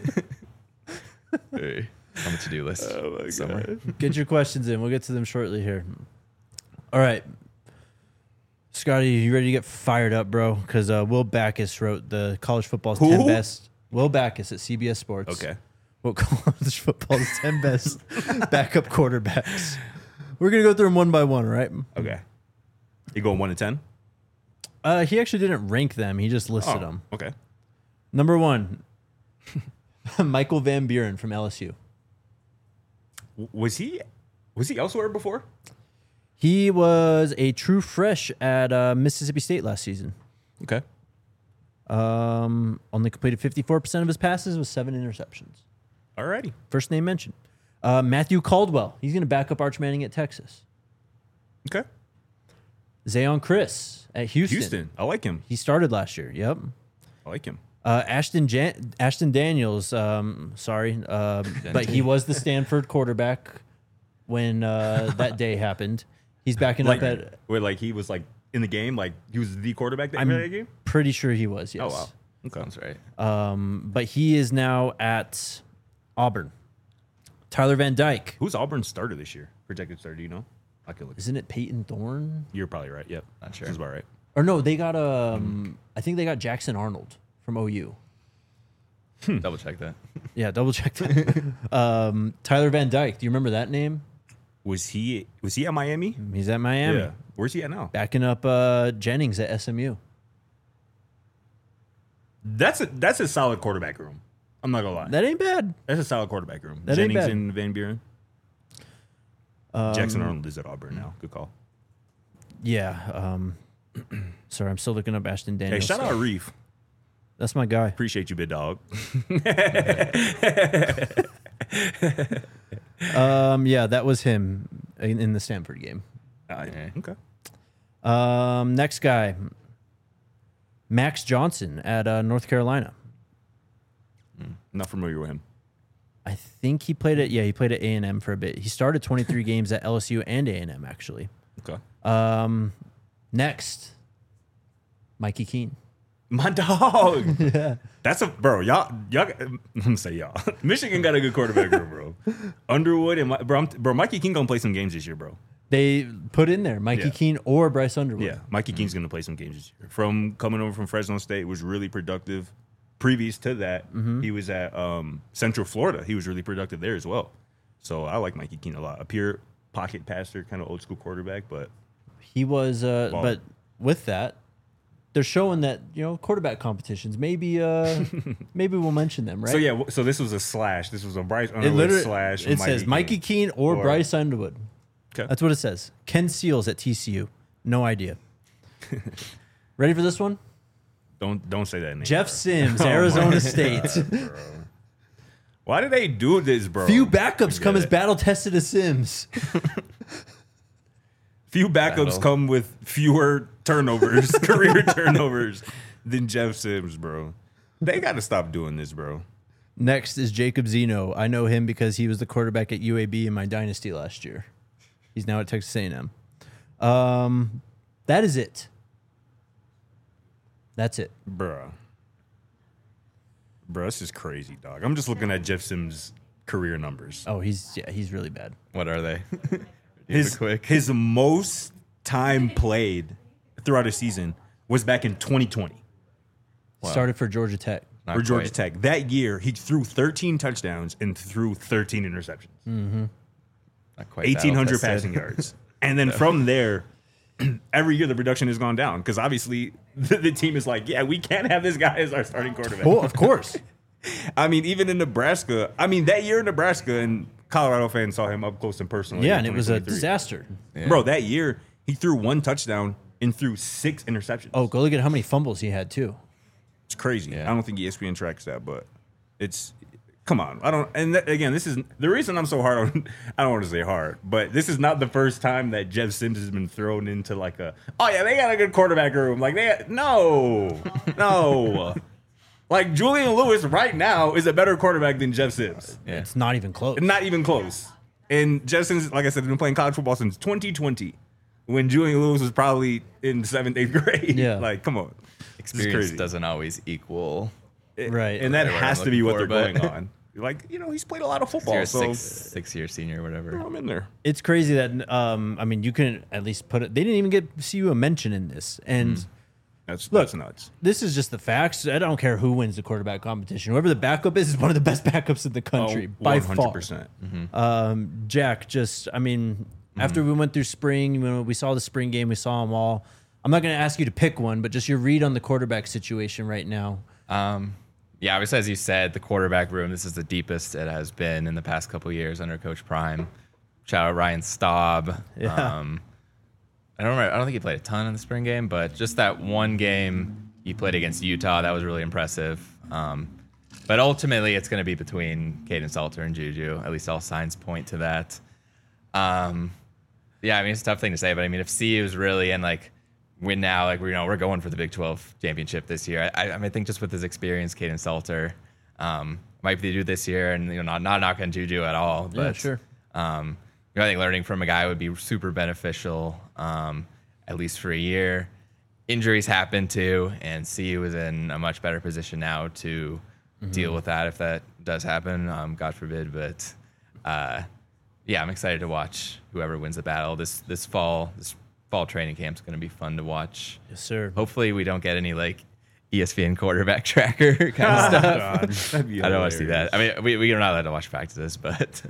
Hey, on the to-do list. oh my somewhere. god, Get your questions in. We'll get to them shortly here. All right. Scotty, you ready to get fired up, bro? Because Will Backus wrote the college football's 10 Who? best. Will Backus at CBS Sports. okay. What college football's 10 best backup quarterbacks. We're going to go through them one by one, all right? Okay. You going 1 to 10? He actually didn't rank them. He just listed them. Okay. Number 1, Michael Van Buren from LSU. Was he elsewhere before? He was a true fresh at Mississippi State last season. Okay. Only completed 54% of his passes with 7 interceptions. Alrighty. First name mentioned. Matthew Caldwell. He's going to back up Arch Manning at Texas. Okay. Zayon Chris at Houston. Houston. I like him. He started last year. Yep. I like him. Ashton Daniels. But he was the Stanford quarterback when that day happened. He's backing Like, up at. where like he was like in the game, like he was the quarterback that I'm that game. pretty sure he was. Yes. Oh wow. Okay. Sounds right. But he is now at Auburn. Tyler Van Dyke. Who's Auburn's starter this year? Projected starter, do you know? I can look. Isn't it Peyton Thorne? You're probably right. Yep. Not sure. That's about right. Or no, they got I think they got Jackson Arnold from OU. Double check that. Yeah, double check that. Tyler Van Dyke. Do you remember that name? Was he at Miami? He's at Miami. Yeah. Where's he at now? Backing up Jennings at SMU. That's a solid quarterback room. I'm not gonna lie. That ain't bad. That's a solid quarterback room. That ain't Jennings bad. and Van Buren. Jackson Arnold is at Auburn now. Good call. Yeah. Sorry, I'm still looking up Ashton Hey, Daniels. shout out Reef. That's my guy. Appreciate you, big dog. Yeah, that was him in the Stanford game. Okay. Next guy, Max Johnson at North Carolina. Not familiar with him. I think he played at A&M for a bit. He started 23 games at LSU and A&M actually. Okay. Next, Mikey Keene. My dog. Yeah. That's bro. Y'all. I'm gonna say y'all. Michigan got a good quarterback room, bro. Underwood and bro. Mikey Keene gonna play some games this year, bro. They put in there Mikey Keene or Bryce Underwood. Yeah, Mikey Keene's gonna play some games this year. From coming over from Fresno State, was really productive. Previous to that, he was at Central Florida. He was really productive there as well. So I like Mikey Keene a lot. A pure pocket passer, kind of old school quarterback, but he was. But with that, they're showing that quarterback competitions. Maybe we'll mention them, right? So yeah, so this was a slash. This was a Bryce Underwood slash. It says Mikey Keene or Bryce Underwood. Okay. That's what it says. Ken Seals at TCU. No idea. Ready for this one? Don't say that name. Jeff bro. Sims, Arizona State. God, why did they do this, bro? Few backups come as battle tested as Sims. Few backups come with fewer turnovers, career turnovers, than Jeff Sims, bro. They got to stop doing this, bro. Next is Jacob Zeno. I know him because he was the quarterback at UAB in my dynasty last year. He's now at Texas A&M. That is it. That's it. Bro, this is crazy, dog. I'm just looking at Jeff Sims' career numbers. Oh, he's really bad. What are they? His most time played throughout a season was back in 2020. Wow. Started for Georgia Tech. For Georgia Tech. That year, he threw 13 touchdowns and threw 13 interceptions. Mm-hmm. Not quite 1,800 passing yards. And then from there, every year the production has gone down because obviously the team is like, yeah, we can't have this guy as our starting quarterback. Oh, of course. I mean, even in Nebraska, that year in Nebraska, and Colorado fans saw him up close and personal. Yeah, and it was a disaster. Yeah. Bro, that year, he threw 1 touchdown and threw 6 interceptions. Oh, go look at how many fumbles he had, too. It's crazy. Yeah. I don't think ESPN tracks that, but it's... Come on. Again, this is... The reason I'm so hard on... I don't want to say hard, but this is not the first time that Jeff Sims has been thrown into like a... Oh, yeah, they got a good quarterback room. Like, no. Like, Julian Lewis right now is a better quarterback than Jeff Sims. Yeah. It's not even close. Not even close. And Jeff Sims, like I said, has been playing college football since 2020 when Julian Lewis was probably in 7th, 8th grade. Yeah. Like, come on. Experience doesn't always equal. Right. And that Whatever has I'm to be what looking they're for, going on. Like, he's played a lot of football. You're a So six-year senior or whatever. I'm in there. It's crazy that, you can at least put it... They didn't even get CU a mention in this. And... That's nuts. This is just the facts. I don't care who wins the quarterback competition. Whoever the backup is one of the best backups in the country by far. 100%. Jack, after we went through spring, we saw the spring game, we saw them all. I'm not going to ask you to pick one, but just your read on the quarterback situation right now. Yeah, obviously, as you said, the quarterback room, this is the deepest it has been in the past couple of years under Coach Prime. Shout out Ryan Staub. Yeah. I don't think he played a ton in the spring game, but just that one game he played against Utah, that was really impressive. But ultimately, it's going to be between Caden Salter and Juju. At least all signs point to that. It's a tough thing to say, but if CU is really win now, we're going for the Big 12 championship this year. I think just with his experience, Caden Salter might be due this year, and not knocking Juju at all. But, Yeah, sure. I think learning from a guy would be super beneficial, at least for a year. Injuries happen too, and CU is in a much better position now to deal with that if that does happen. God forbid, but I'm excited to watch whoever wins the battle this fall. This fall training camp is going to be fun to watch. Yes, sir. Hopefully, we don't get any ESPN quarterback tracker kind of stuff. God, that'd be I don't want to see hilarious. that. We are not allowed to watch practices, but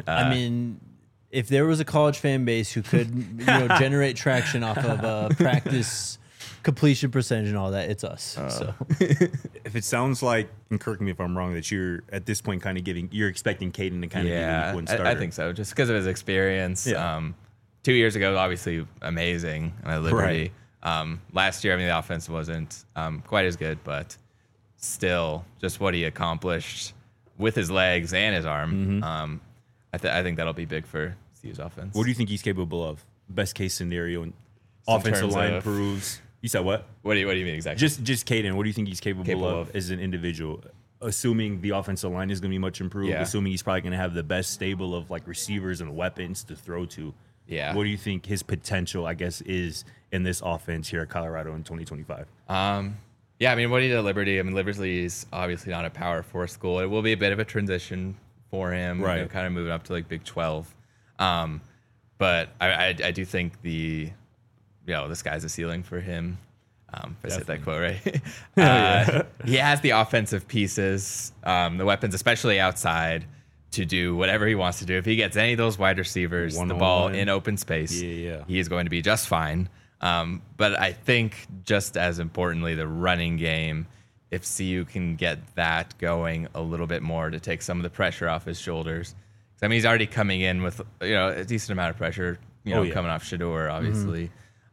if there was a college fan base who could generate traction off of practice completion percentage and all that, it's us. So If it sounds like, and correct me if I'm wrong, that you're at this point kind of you're expecting Caden to kind of be the week one starter. I think so, just because of his experience. Yeah. 2 years ago, obviously amazing at Liberty. Last year, I mean, the offense wasn't quite as good, but still, just what he accomplished with his legs and his arm. I think that'll be big for CU's offense. What do you think he's capable of? Best case scenario, and offensive terms line of- improves. You said what? What do you mean exactly? Just Caden. What do you think he's capable of as an individual? Assuming the offensive line is going to be much improved, Yeah. assuming he's probably going to have the best stable of like receivers and weapons to throw to. Yeah. What do you think his potential, I guess, is in this offense here at Colorado in 2025? Yeah, I mean, what he did at Liberty, I mean, Liberty is obviously not a Power 4 school. It will be a bit of a transition for him, Right. kind of moving up to like Big 12. But I do think the sky's the ceiling for him. If I said that quote right. He has the offensive pieces, the weapons, especially outside, to do whatever he wants to do. If he gets any of those wide receivers, the ball One-on-one. in open space, he is going to be just fine. But I think just as importantly, the running game, if CU can get that going a little bit more to take some of the pressure off his shoulders. 'Cause, I mean, he's already coming in with a decent amount of pressure, coming off Shador, obviously.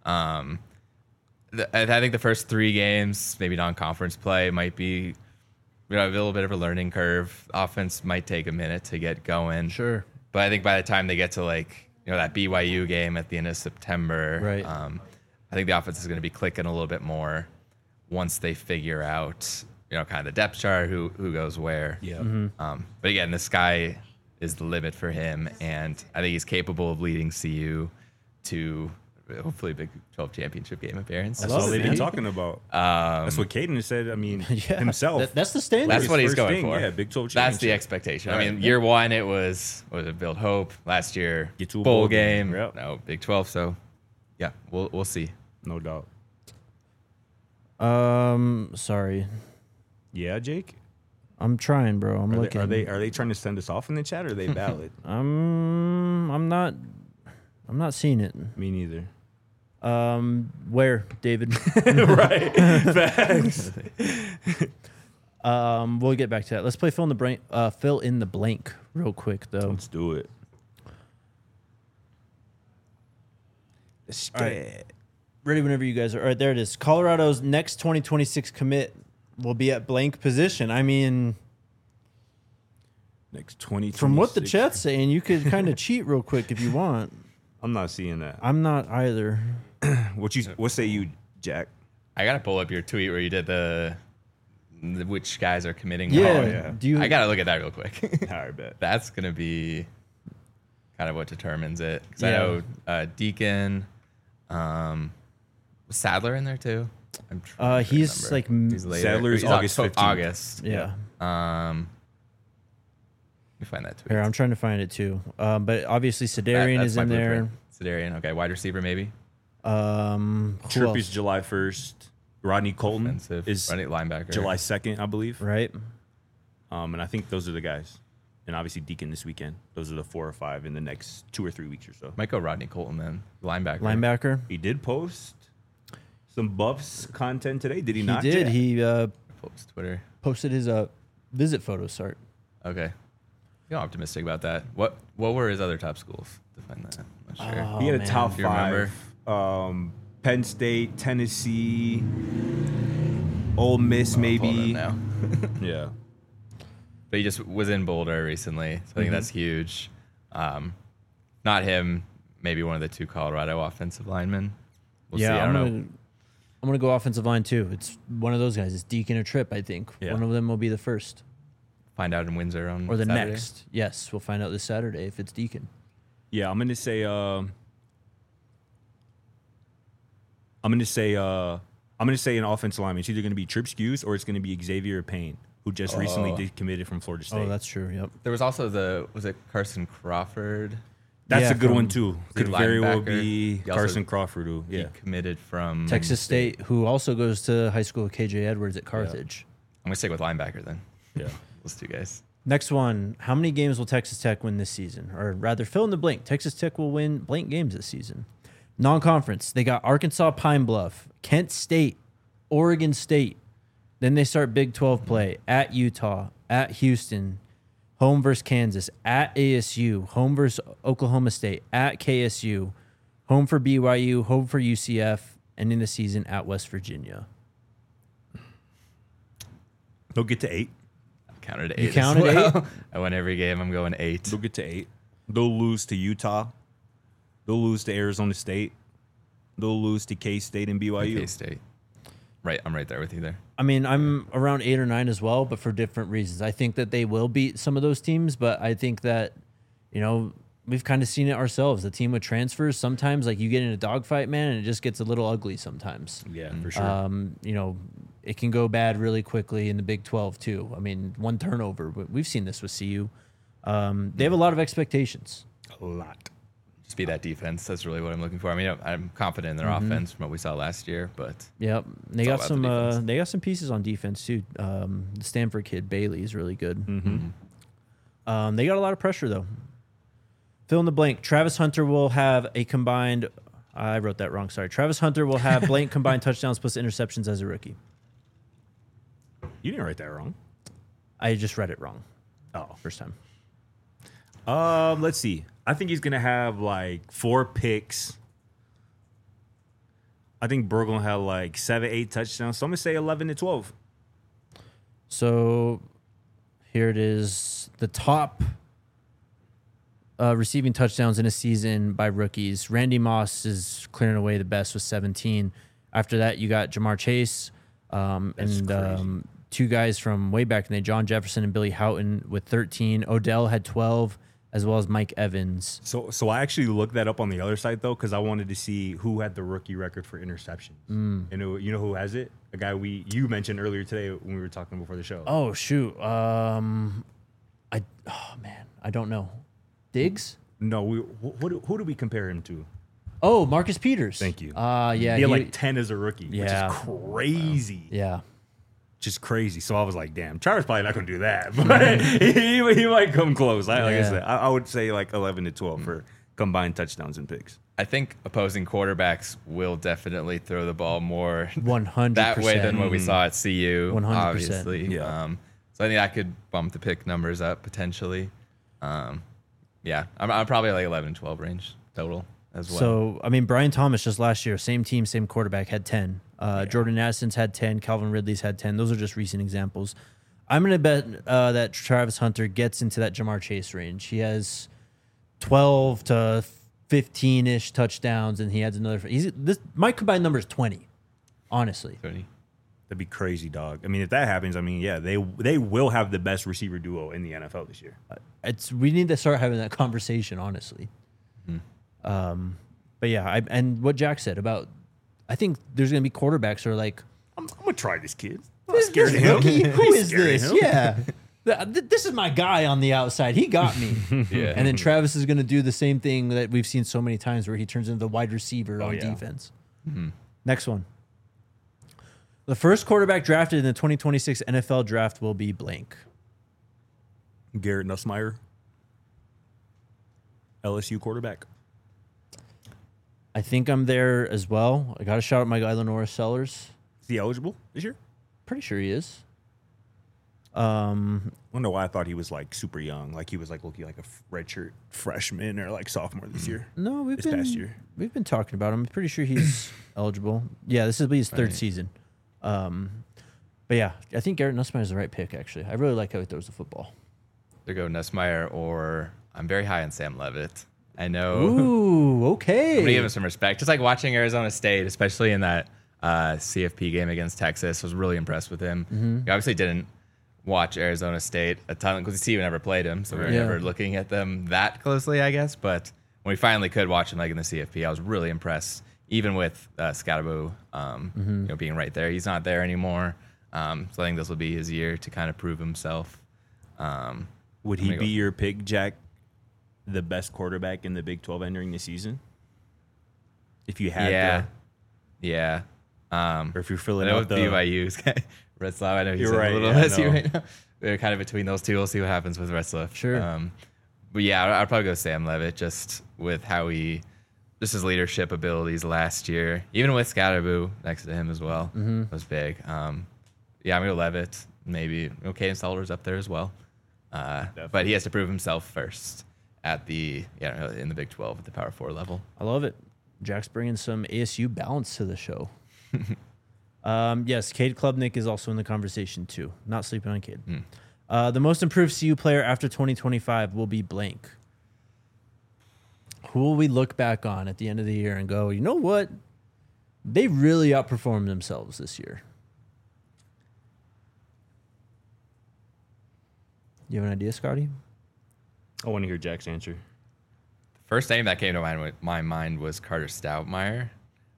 I think the first 3 games, maybe non-conference play, might be a little bit of a learning curve. Offense might take a minute to get going. sure. But I think by the time they get to that BYU game at the end of September, Right. I think the offense is going to be clicking a little bit more once they figure out, kind of the depth chart, who goes where. Yeah. But again, the sky is the limit for him, and I think he's capable of leading CU to hopefully a Big 12 championship game appearance. That's love all it, they've been man. talking about. That's what Caden has said. I mean, Yeah, himself. that's the standard. That's what he's first going thing, for. yeah, Big 12 That's the championship. expectation. Right. I mean, year one it was it Build Hope. Last year, Get to a bowl bowl game. game. Yep. No, Big 12. So, yeah, we'll see. No doubt. Sorry. Yeah, Jake. I'm trying, bro. I'm Are looking. they trying to send us off in the chat, or are they valid? I'm not seeing it. Me neither. Where, David? Right. Facts. We'll get back to that. Let's play fill in the blank real quick though. Let's do it. All right. Ready whenever you guys are. All right, there it is. Colorado's next 2026 commit will be at blank position. I mean, Next 20. from what the chat's saying, you could kind of cheat real quick if you want. I'm not seeing that. I'm not either. What say you, Jack? I gotta pull up your tweet where you did the which guys are committing. Yeah. yeah. Do you? I gotta look at that real quick. All right, bet. That's gonna be kind of what determines it. 'Cause Yeah. I know Deacon, was Sadler in there too. I'm trying to He's remember. like He's later. Sadler's He's August 15th. August. yeah. Let me find that tweet. Here, I'm trying to find it too. But obviously, Sedarian That's is my in there. blueprint. Sedarian, okay. Wide receiver maybe. Who Tripp is else? July 1st. Rodney Colton Offensive. is running linebacker. July 2nd, I believe. Right. And I think those are the guys. And obviously Deacon this weekend. Those are the 4 or 5 in the next 2 or 3 weeks or so. Might go Rodney Colton then. Linebacker. Linebacker. He did post some Buffs content today. Did he, He not? did. Jack? He Post Twitter. posted his visit photo. Start. Okay. You're optimistic about that. What were his other top schools? Define that. I'm not sure. He had Oh, a top Do you remember? 5. Penn State, Tennessee, Ole Miss, Pull it maybe. up now. Yeah. But he just was in Boulder recently, so I think that's huge. Not him, maybe one of the 2 Colorado offensive linemen. We'll see. I don't know. I'm gonna go offensive line too. It's one of those guys. It's Deacon or Tripp. I think Yeah. one of them will be the first Find out in Windsor on or the Saturday. next. Yes, we'll find out this Saturday if it's Deacon. Yeah, I'm gonna say an offensive lineman. It's either gonna be Tripp Skews or it's gonna be Xavier Payne, who just recently decommitted from Florida State. Oh, that's true. Yep. There was also was it Carson Crawford? That's Yeah, a good from- one too. Is he Could very well linebacker? be He also- Carson Crawford. Who, He yeah, committed from Texas State, who also goes to high school with KJ Edwards at Carthage. I'm gonna stick with linebacker then. yeah. Those 2 guys. Next one. How many games will Texas Tech win this season? Or rather, fill in the blank. Texas Tech will win blank games this season. Non-conference. They got Arkansas Pine Bluff, Kent State, Oregon State. Then they start Big 12 play at Utah, at Houston, home versus Kansas, at ASU, home versus Oklahoma State, at KSU, home for BYU, home for UCF, ending the season at West Virginia. They'll get to 8. Counted 8. You counted 8? I win every game. I'm going 8. They'll get to 8. They'll lose to Utah. They'll lose to Arizona State. They'll lose to K-State and BYU. K-State. Right, I'm right there with you there. I mean, I'm around 8 or 9 as well, but for different reasons. I think that they will beat some of those teams, but I think that, we've kind of seen it ourselves. The team with transfers, sometimes like you get in a dogfight, man, and it just gets a little ugly sometimes. Yeah, for sure. It can go bad really quickly in the Big 12 too. I mean, one turnover. We've seen this with CU. They have a lot of expectations. A lot. Just be that defense. That's really what I'm looking for. I mean, I'm confident in their offense from what we saw last year, but yep, they all got about some. the defense. They got some pieces on defense too. The Stanford kid Bailey is really good. They got a lot of pressure though. Fill in the blank. Travis Hunter will have a combined. I wrote that wrong. Sorry. Travis Hunter will have blank combined touchdowns plus interceptions as a rookie. You didn't write that wrong. I just read it wrong. Oh. First time. Let's see. I think he's gonna have like 4 picks. I think Burrow gonna have like 7, 8 touchdowns. So I'm gonna say 11 to 12. So here it is. The top receiving touchdowns in a season by rookies. Randy Moss is clearing away the best with 17. After that, you got Jamar Chase and 2 guys from way back in the day, John Jefferson and Billy Houghton with 13. Odell had 12, as well as Mike Evans. So I actually looked that up on the other side though, because I wanted to see who had the rookie record for interceptions. And you know who has it? A guy you mentioned earlier today when we were talking before the show. Oh shoot. I don't know. Diggs? No, who do we compare him to? Oh, Marcus Peters. Thank you. Yeah. He had like 10 as a rookie, Yeah. which is crazy. Yeah. Just crazy. So I was like, damn, Travis probably not going to do that. But he might come close. Like I said, I would say like 11 to 12 for combined touchdowns and picks. I think opposing quarterbacks will definitely throw the ball more 100%. that way than what we saw at CU, 100%. obviously. Yeah. So I think I could bump the pick numbers up potentially. Yeah, I'm probably like 11, 12 range total as well. So, I mean, Brian Thomas just last year, same team, same quarterback, had 10. Jordan Addison's had 10. Calvin Ridley's had 10. Those are just recent examples. I'm going to bet that Travis Hunter gets into that Jamar Chase range. He has 12 to 15-ish touchdowns, and he adds another. My combined number is 20, honestly. 20. That'd be crazy, dog. I mean, if that happens, I mean, yeah, they will have the best receiver duo in the NFL this year. We need to start having that conversation, honestly. But yeah, and what Jack said about, I think there's going to be quarterbacks who are like, I'm going to try this kid. this scared of him. rookie, who is Scared of this? him. Yeah. This is my guy on the outside. He got me. Yeah. And then Travis is going to do the same thing that we've seen so many times where he turns into the wide receiver on defense. Next one. The first quarterback drafted in the 2026 NFL draft will be blank. Garrett Nussmeier, LSU quarterback. I think I'm there as well. I got to shout out my guy, Lenora Sellers. Is he eligible this year? Pretty sure he is. I don't know why I thought he was like super young. Like he was like looking like a redshirt freshman or like sophomore this year. No, past year. We've been talking about him. I'm pretty sure he's eligible. Yeah, this will be his third season. But yeah, I think Garrett Nussmeier is the right pick, actually. I really like how he throws the football. There go Nussmeier, or I'm very high on Sam Levitt. I know. Ooh, I'm okay. going to give him some respect. Just like watching Arizona State, especially in that CFP game against Texas, was really impressed with him. He obviously didn't watch Arizona State a ton because CU never played him, so we were never looking at them that closely, I guess. But when we finally could watch him like in the CFP, I was really impressed, even with Scatterbo being right there. He's not there anymore. So I think this will be his year to kind of prove himself. Would he be your pick, Jack, the best quarterback in the Big 12 entering the season? If you had Yeah. or if you're I filling know out with the BYU's Retzlaff, I know he's You're right, a little yeah, messy no. right now. We're kind of between those two. We'll see what happens with Retzlaff. Sure. But yeah, I'd probably go Sam Levitt just with how he just his leadership abilities last year, even with Scatterboo next to him as well, was big. I'm gonna go Levitt. Maybe Caden Salter's up there as well, but he has to prove himself first at in the Big 12 at the Power 4 level. I love it. Jack's bringing some ASU balance to the show. Yes, Cade Klubnik is also in the conversation too. Not sleeping on Cade. The most improved CU player after 2025 will be blank. Who will we look back on at the end of the year and go, you know what? They really outperformed themselves this year. You have an idea, Scotty? I want to hear Jack's answer. First name that came to my mind was Carter Stoutmeyer.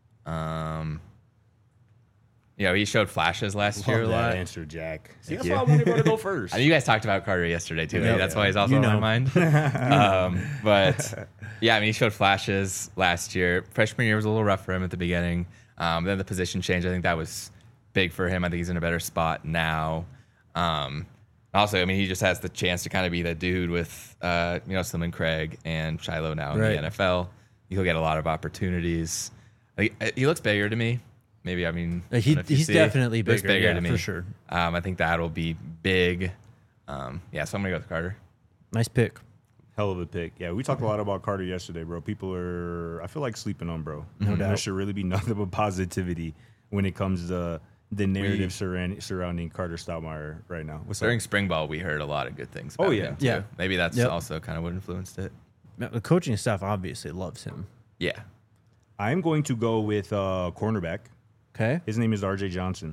He showed flashes last year a Love lot. that answer, Jack. See, that's you. why I wanted to go first. I know you guys talked about Carter yesterday too. Yeah. That's why he's also on my mind. But he showed flashes last year. Freshman year was a little rough for him at the beginning. Then the position change, I think that was big for him. I think he's in a better spot now. Also, he just has the chance to kind of be the dude with, Slim Craig and Shiloh now in the NFL. He'll get a lot of opportunities. He looks bigger to me. Maybe, he's definitely bigger to me. For sure. I think that'll be big. So I'm going to go with Carter. Nice pick. Hell of a pick. Yeah, we talked a lot about Carter yesterday, bro. People are, I feel like, sleeping on, bro. No doubt. There should really be nothing but positivity when it comes to the narrative surrounding Carter Stoutmeyer right now. During spring ball, we heard a lot of good things about him, too. Yeah. Maybe that's also kind of what influenced it. The coaching staff obviously loves him. Yeah. I'm going to go with cornerback. Okay. His name is RJ Johnson.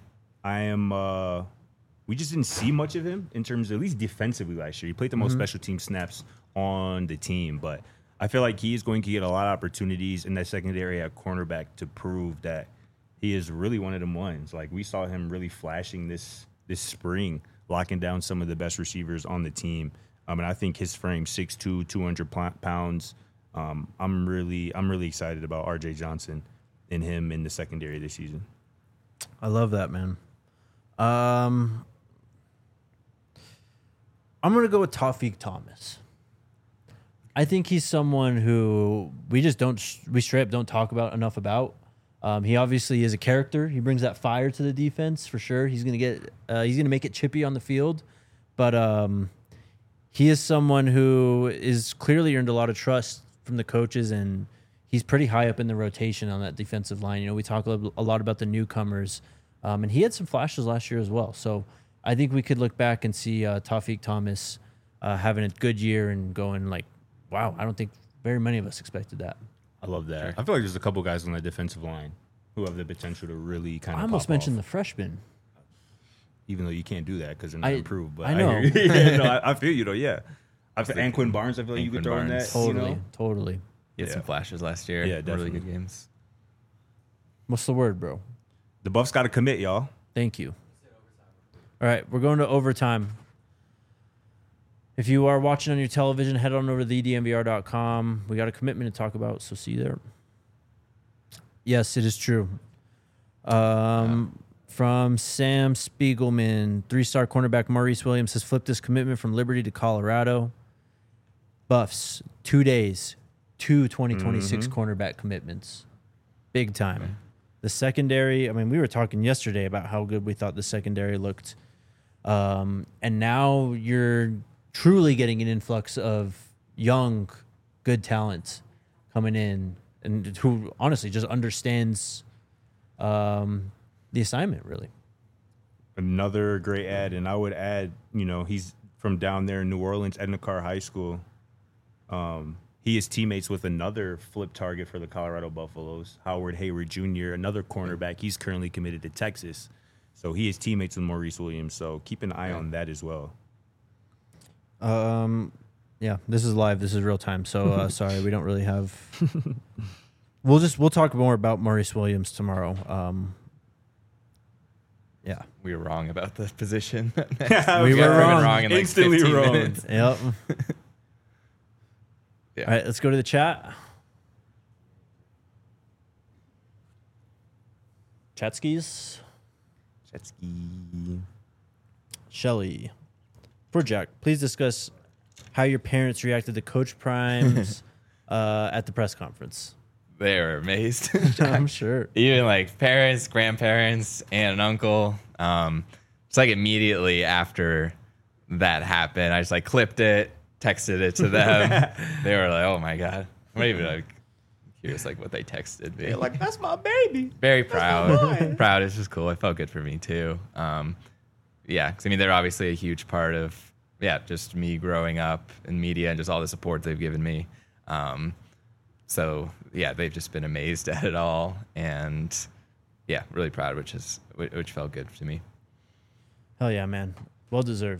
We just didn't see much of him in terms of at least defensively last year. He played the most special team snaps on the team, but I feel like he is going to get a lot of opportunities in that secondary at cornerback to prove that he is really one of them ones. Like, we saw him really flashing this spring, locking down some of the best receivers on the team. And I think his frame, 6'2", 200 pounds. I'm really excited about RJ Johnson and him in the secondary this season. I love that, man. I'm going to go with Tawfiq Thomas. I think he's someone who we straight up don't talk about enough about. He obviously is a character. He brings that fire to the defense for sure. He's going to make it chippy on the field, but he is someone who is clearly earned a lot of trust from the coaches, and he's pretty high up in the rotation on that defensive line. We talk a lot about the newcomers, and he had some flashes last year as well. So I think we could look back and see Tawfiq Thomas having a good year and going like, wow, I don't think very many of us expected that. I love that. I feel like there's a couple guys on the defensive line who have the potential to really kind of I almost pop mentioned off. the freshman. Even though you can't do that because they're not improved. But I know. hear you. Yeah, no, I feel you, though, yeah. And Quinn Barnes, I feel like you could throw in that. Totally. He had some flashes last year. Yeah, definitely. Really good games. What's the word, bro? The Buffs got to commit, y'all. Thank you. All right, we're going to overtime. If you are watching on your television, head on over to thedmvr.com. We got a commitment to talk about, so see you there. Yes, it is true. From Sam Spiegelman, 3-star cornerback Maurice Williams has flipped his commitment from Liberty to Colorado. Buffs, 2 days, 2 2026 cornerback commitments. Big time. Okay. The secondary, we were talking yesterday about how good we thought the secondary looked. And now you're truly getting an influx of young, good talent coming in and who honestly just understands the assignment, really. Another great ad, and I would add, he's from down there in New Orleans, Edna Carr High School. He is teammates with another flip target for the Colorado Buffaloes, Howard Hayward Jr., another cornerback. He's currently committed to Texas. So he is teammates with Maurice Williams. So keep an eye on that as well. Yeah, this is live. This is real time. So sorry, we don't really have. We'll talk more about Maurice Williams tomorrow. Yeah, we were wrong about the position. we were wrong. In like instantly 15 wrong. Minutes. Yep. Yeah. All right, let's go to the chat. Chatskis. Shelly. For Jack, please discuss how your parents reacted to Coach Prime's at the press conference. They were amazed. I'm sure. Even like parents, grandparents, aunt and uncle. It's like immediately after that happened, I just like clipped it, texted it to them. They were like, "Oh my god!" I'm not even like curious like what they texted me. They're like, that's my baby. Very proud. Proud. It's just cool. It felt good for me too. Yeah, because I mean they're obviously a huge part of just me growing up in media and just all the support they've given me. So yeah, they've just been amazed at it all, and yeah, really proud, which felt good to me. Hell yeah, man. Well deserved.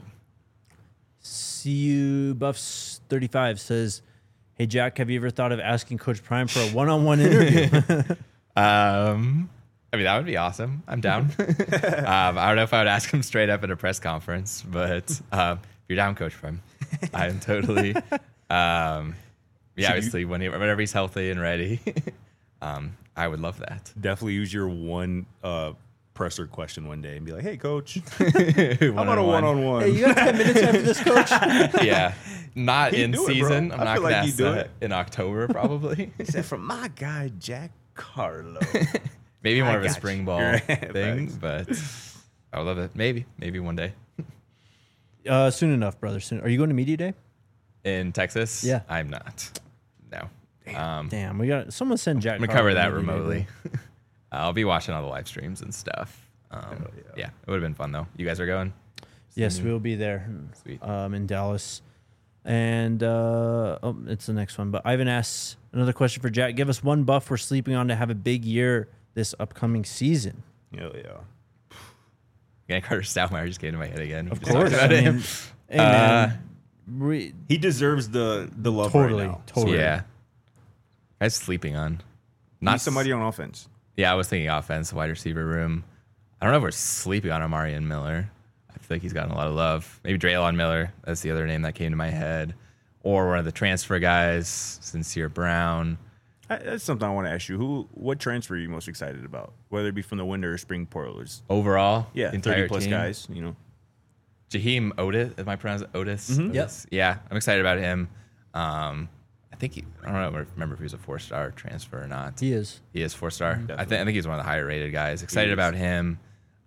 CU Buffs 35 says, "Hey Jack, have you ever thought of asking Coach Prime for a one-on-one interview?" I mean, that would be awesome. I'm down. I don't know if I would ask him straight up at a press conference, but if you're down, Coach Prime, I'm totally. Obviously, whenever he's healthy and ready, I would love that. Definitely use your one presser question one day and be like, "Hey, Coach, how about a one-on-one?" Hey, you got 10 minutes after this, Coach? Yeah, not He'd in do it, season. bro. I'm I not feel going like to he'd ask do that it. in October, probably. He said, "From my guy Jack Carlo." Maybe more I of a got spring you. ball Right. thing, Thanks. but I would love it. Maybe one day. Soon enough, brother. Soon. Are you going to Media Day? In Texas? Yeah. I'm not. No. Damn, we got someone send Jack. I'm gonna Carter cover that to Media Day, remotely. I'll be watching all the live streams and stuff. Yeah, it would have been fun though. You guys are going? Yes, we'll be there. Sweet. In Dallas. And it's the next one. But Ivan asks another question for Jack. Give us one buff we're sleeping on to have a big year this upcoming season. Hell yeah. Yeah, Carter Stoudemire just came to my head again. Of We just talked course. about I him. mean, hey, man, He deserves the love Totally, right now. totally. Yeah. Guy's sleeping on. Not somebody on offense. Yeah, I was thinking offense, wide receiver room. I don't know if we're sleeping on Amarian Miller. I feel like he's gotten a lot of love. Maybe Draylon Miller. That's the other name that came to my head. Or one of the transfer guys, Sincere Brown. That's something I want to ask you. What transfer are you most excited about? Whether it be from the winter or spring portals? Overall, Yeah, the entire 30-plus team. guys, Jaheim Otis, am I pronouncing Otis? Mhm. Otis? Yeah, I'm excited about him. I think I don't know. Remember if he was a 4-star transfer or not. He is. He is 4-star. I Definitely. think he's one of the higher rated guys. Excited about him.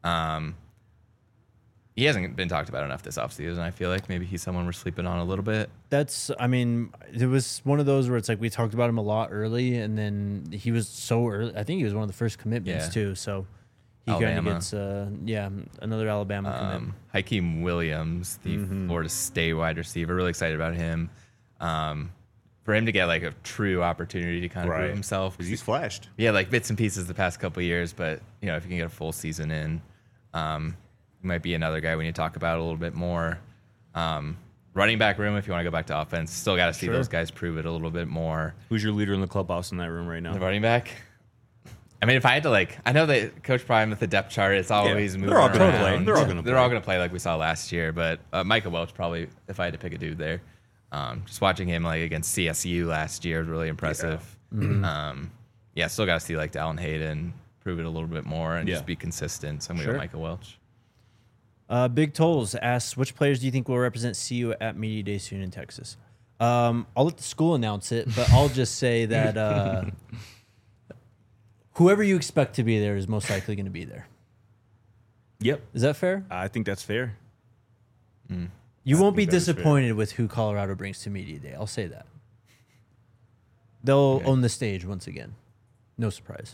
He hasn't been talked about enough this offseason. I feel like maybe he's someone we're sleeping on a little bit. I mean, it was one of those where it's like we talked about him a lot early, and then he was so early. I think he was one of the first commitments Yeah. too. So he kind of Alabama. gets, another Alabama commitment. Hakeem Williams, the Florida State wide receiver. Really excited about him. For him to get like a true opportunity to kind of prove himself. Because he's flashed. Yeah, like bits and pieces the past couple of years, but if you can get a full season in, he might be another guy we need to talk about a little bit more. Running back room, if you want to go back to offense, still got to see those guys prove it a little bit more. Who's your leader in the clubhouse in that room right now? The running back. I mean, if I had to I know that Coach Prime with the depth chart, it's always moving they're all gonna around. play. They're all gonna They're play. all gonna play like we saw last year. But Micah Welch probably, if I had to pick a dude there, just watching him against CSU last year was really impressive. Still got to see Dallin Hayden prove it a little bit more and just be consistent. So I'm gonna go Micah Welch. Big Tolls asks, which players do you think will represent CU at Media Day soon in Texas? I'll let the school announce it, but I'll just say that whoever you expect to be there is most likely going to be there. Yep. Is that fair? I think that's fair. You won't be think that is fair. disappointed with who Colorado brings to Media Day. I'll say that. They'll own the stage once again. No surprise.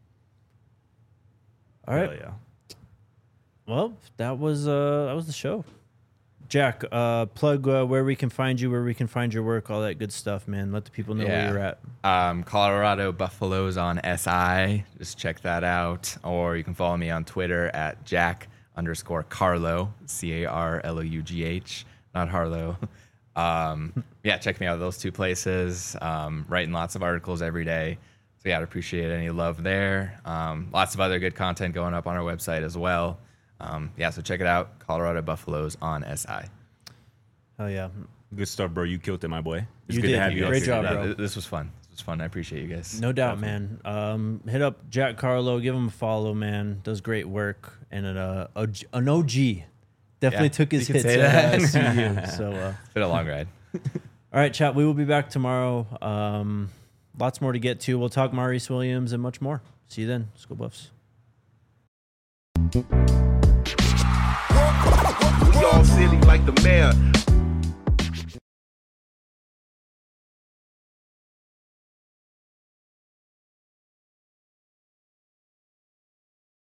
All right. Hell yeah. Well, that was the show. Jack, plug where we can find you, where we can find your work, all that good stuff, man. Let the people know where you're at. Colorado Buffaloes on SI. Just check that out. Or you can follow me on Twitter at Jack_Carlo, CARLOUGH, not Harlow. Check me out at those two places. Writing lots of articles every day. So I'd appreciate any love there. Lots of other good content going up on our website as well. So check it out. Colorado Buffaloes on SI. Hell yeah. Good stuff, bro. You killed it, my boy. It's You good did. to have you. Great up here. job, bro. This was fun. I appreciate you guys. No doubt, man. Hit up Jack Carlo. Give him a follow, man. Does great work. And an OG. Definitely took his you can hits say at that. CU. So, It's been a long ride. all All right, chat. We will be back tomorrow. Lots more to get to. We'll talk Maurice Williams and much more. See you then. Go Buffs. We all silly like the mayor.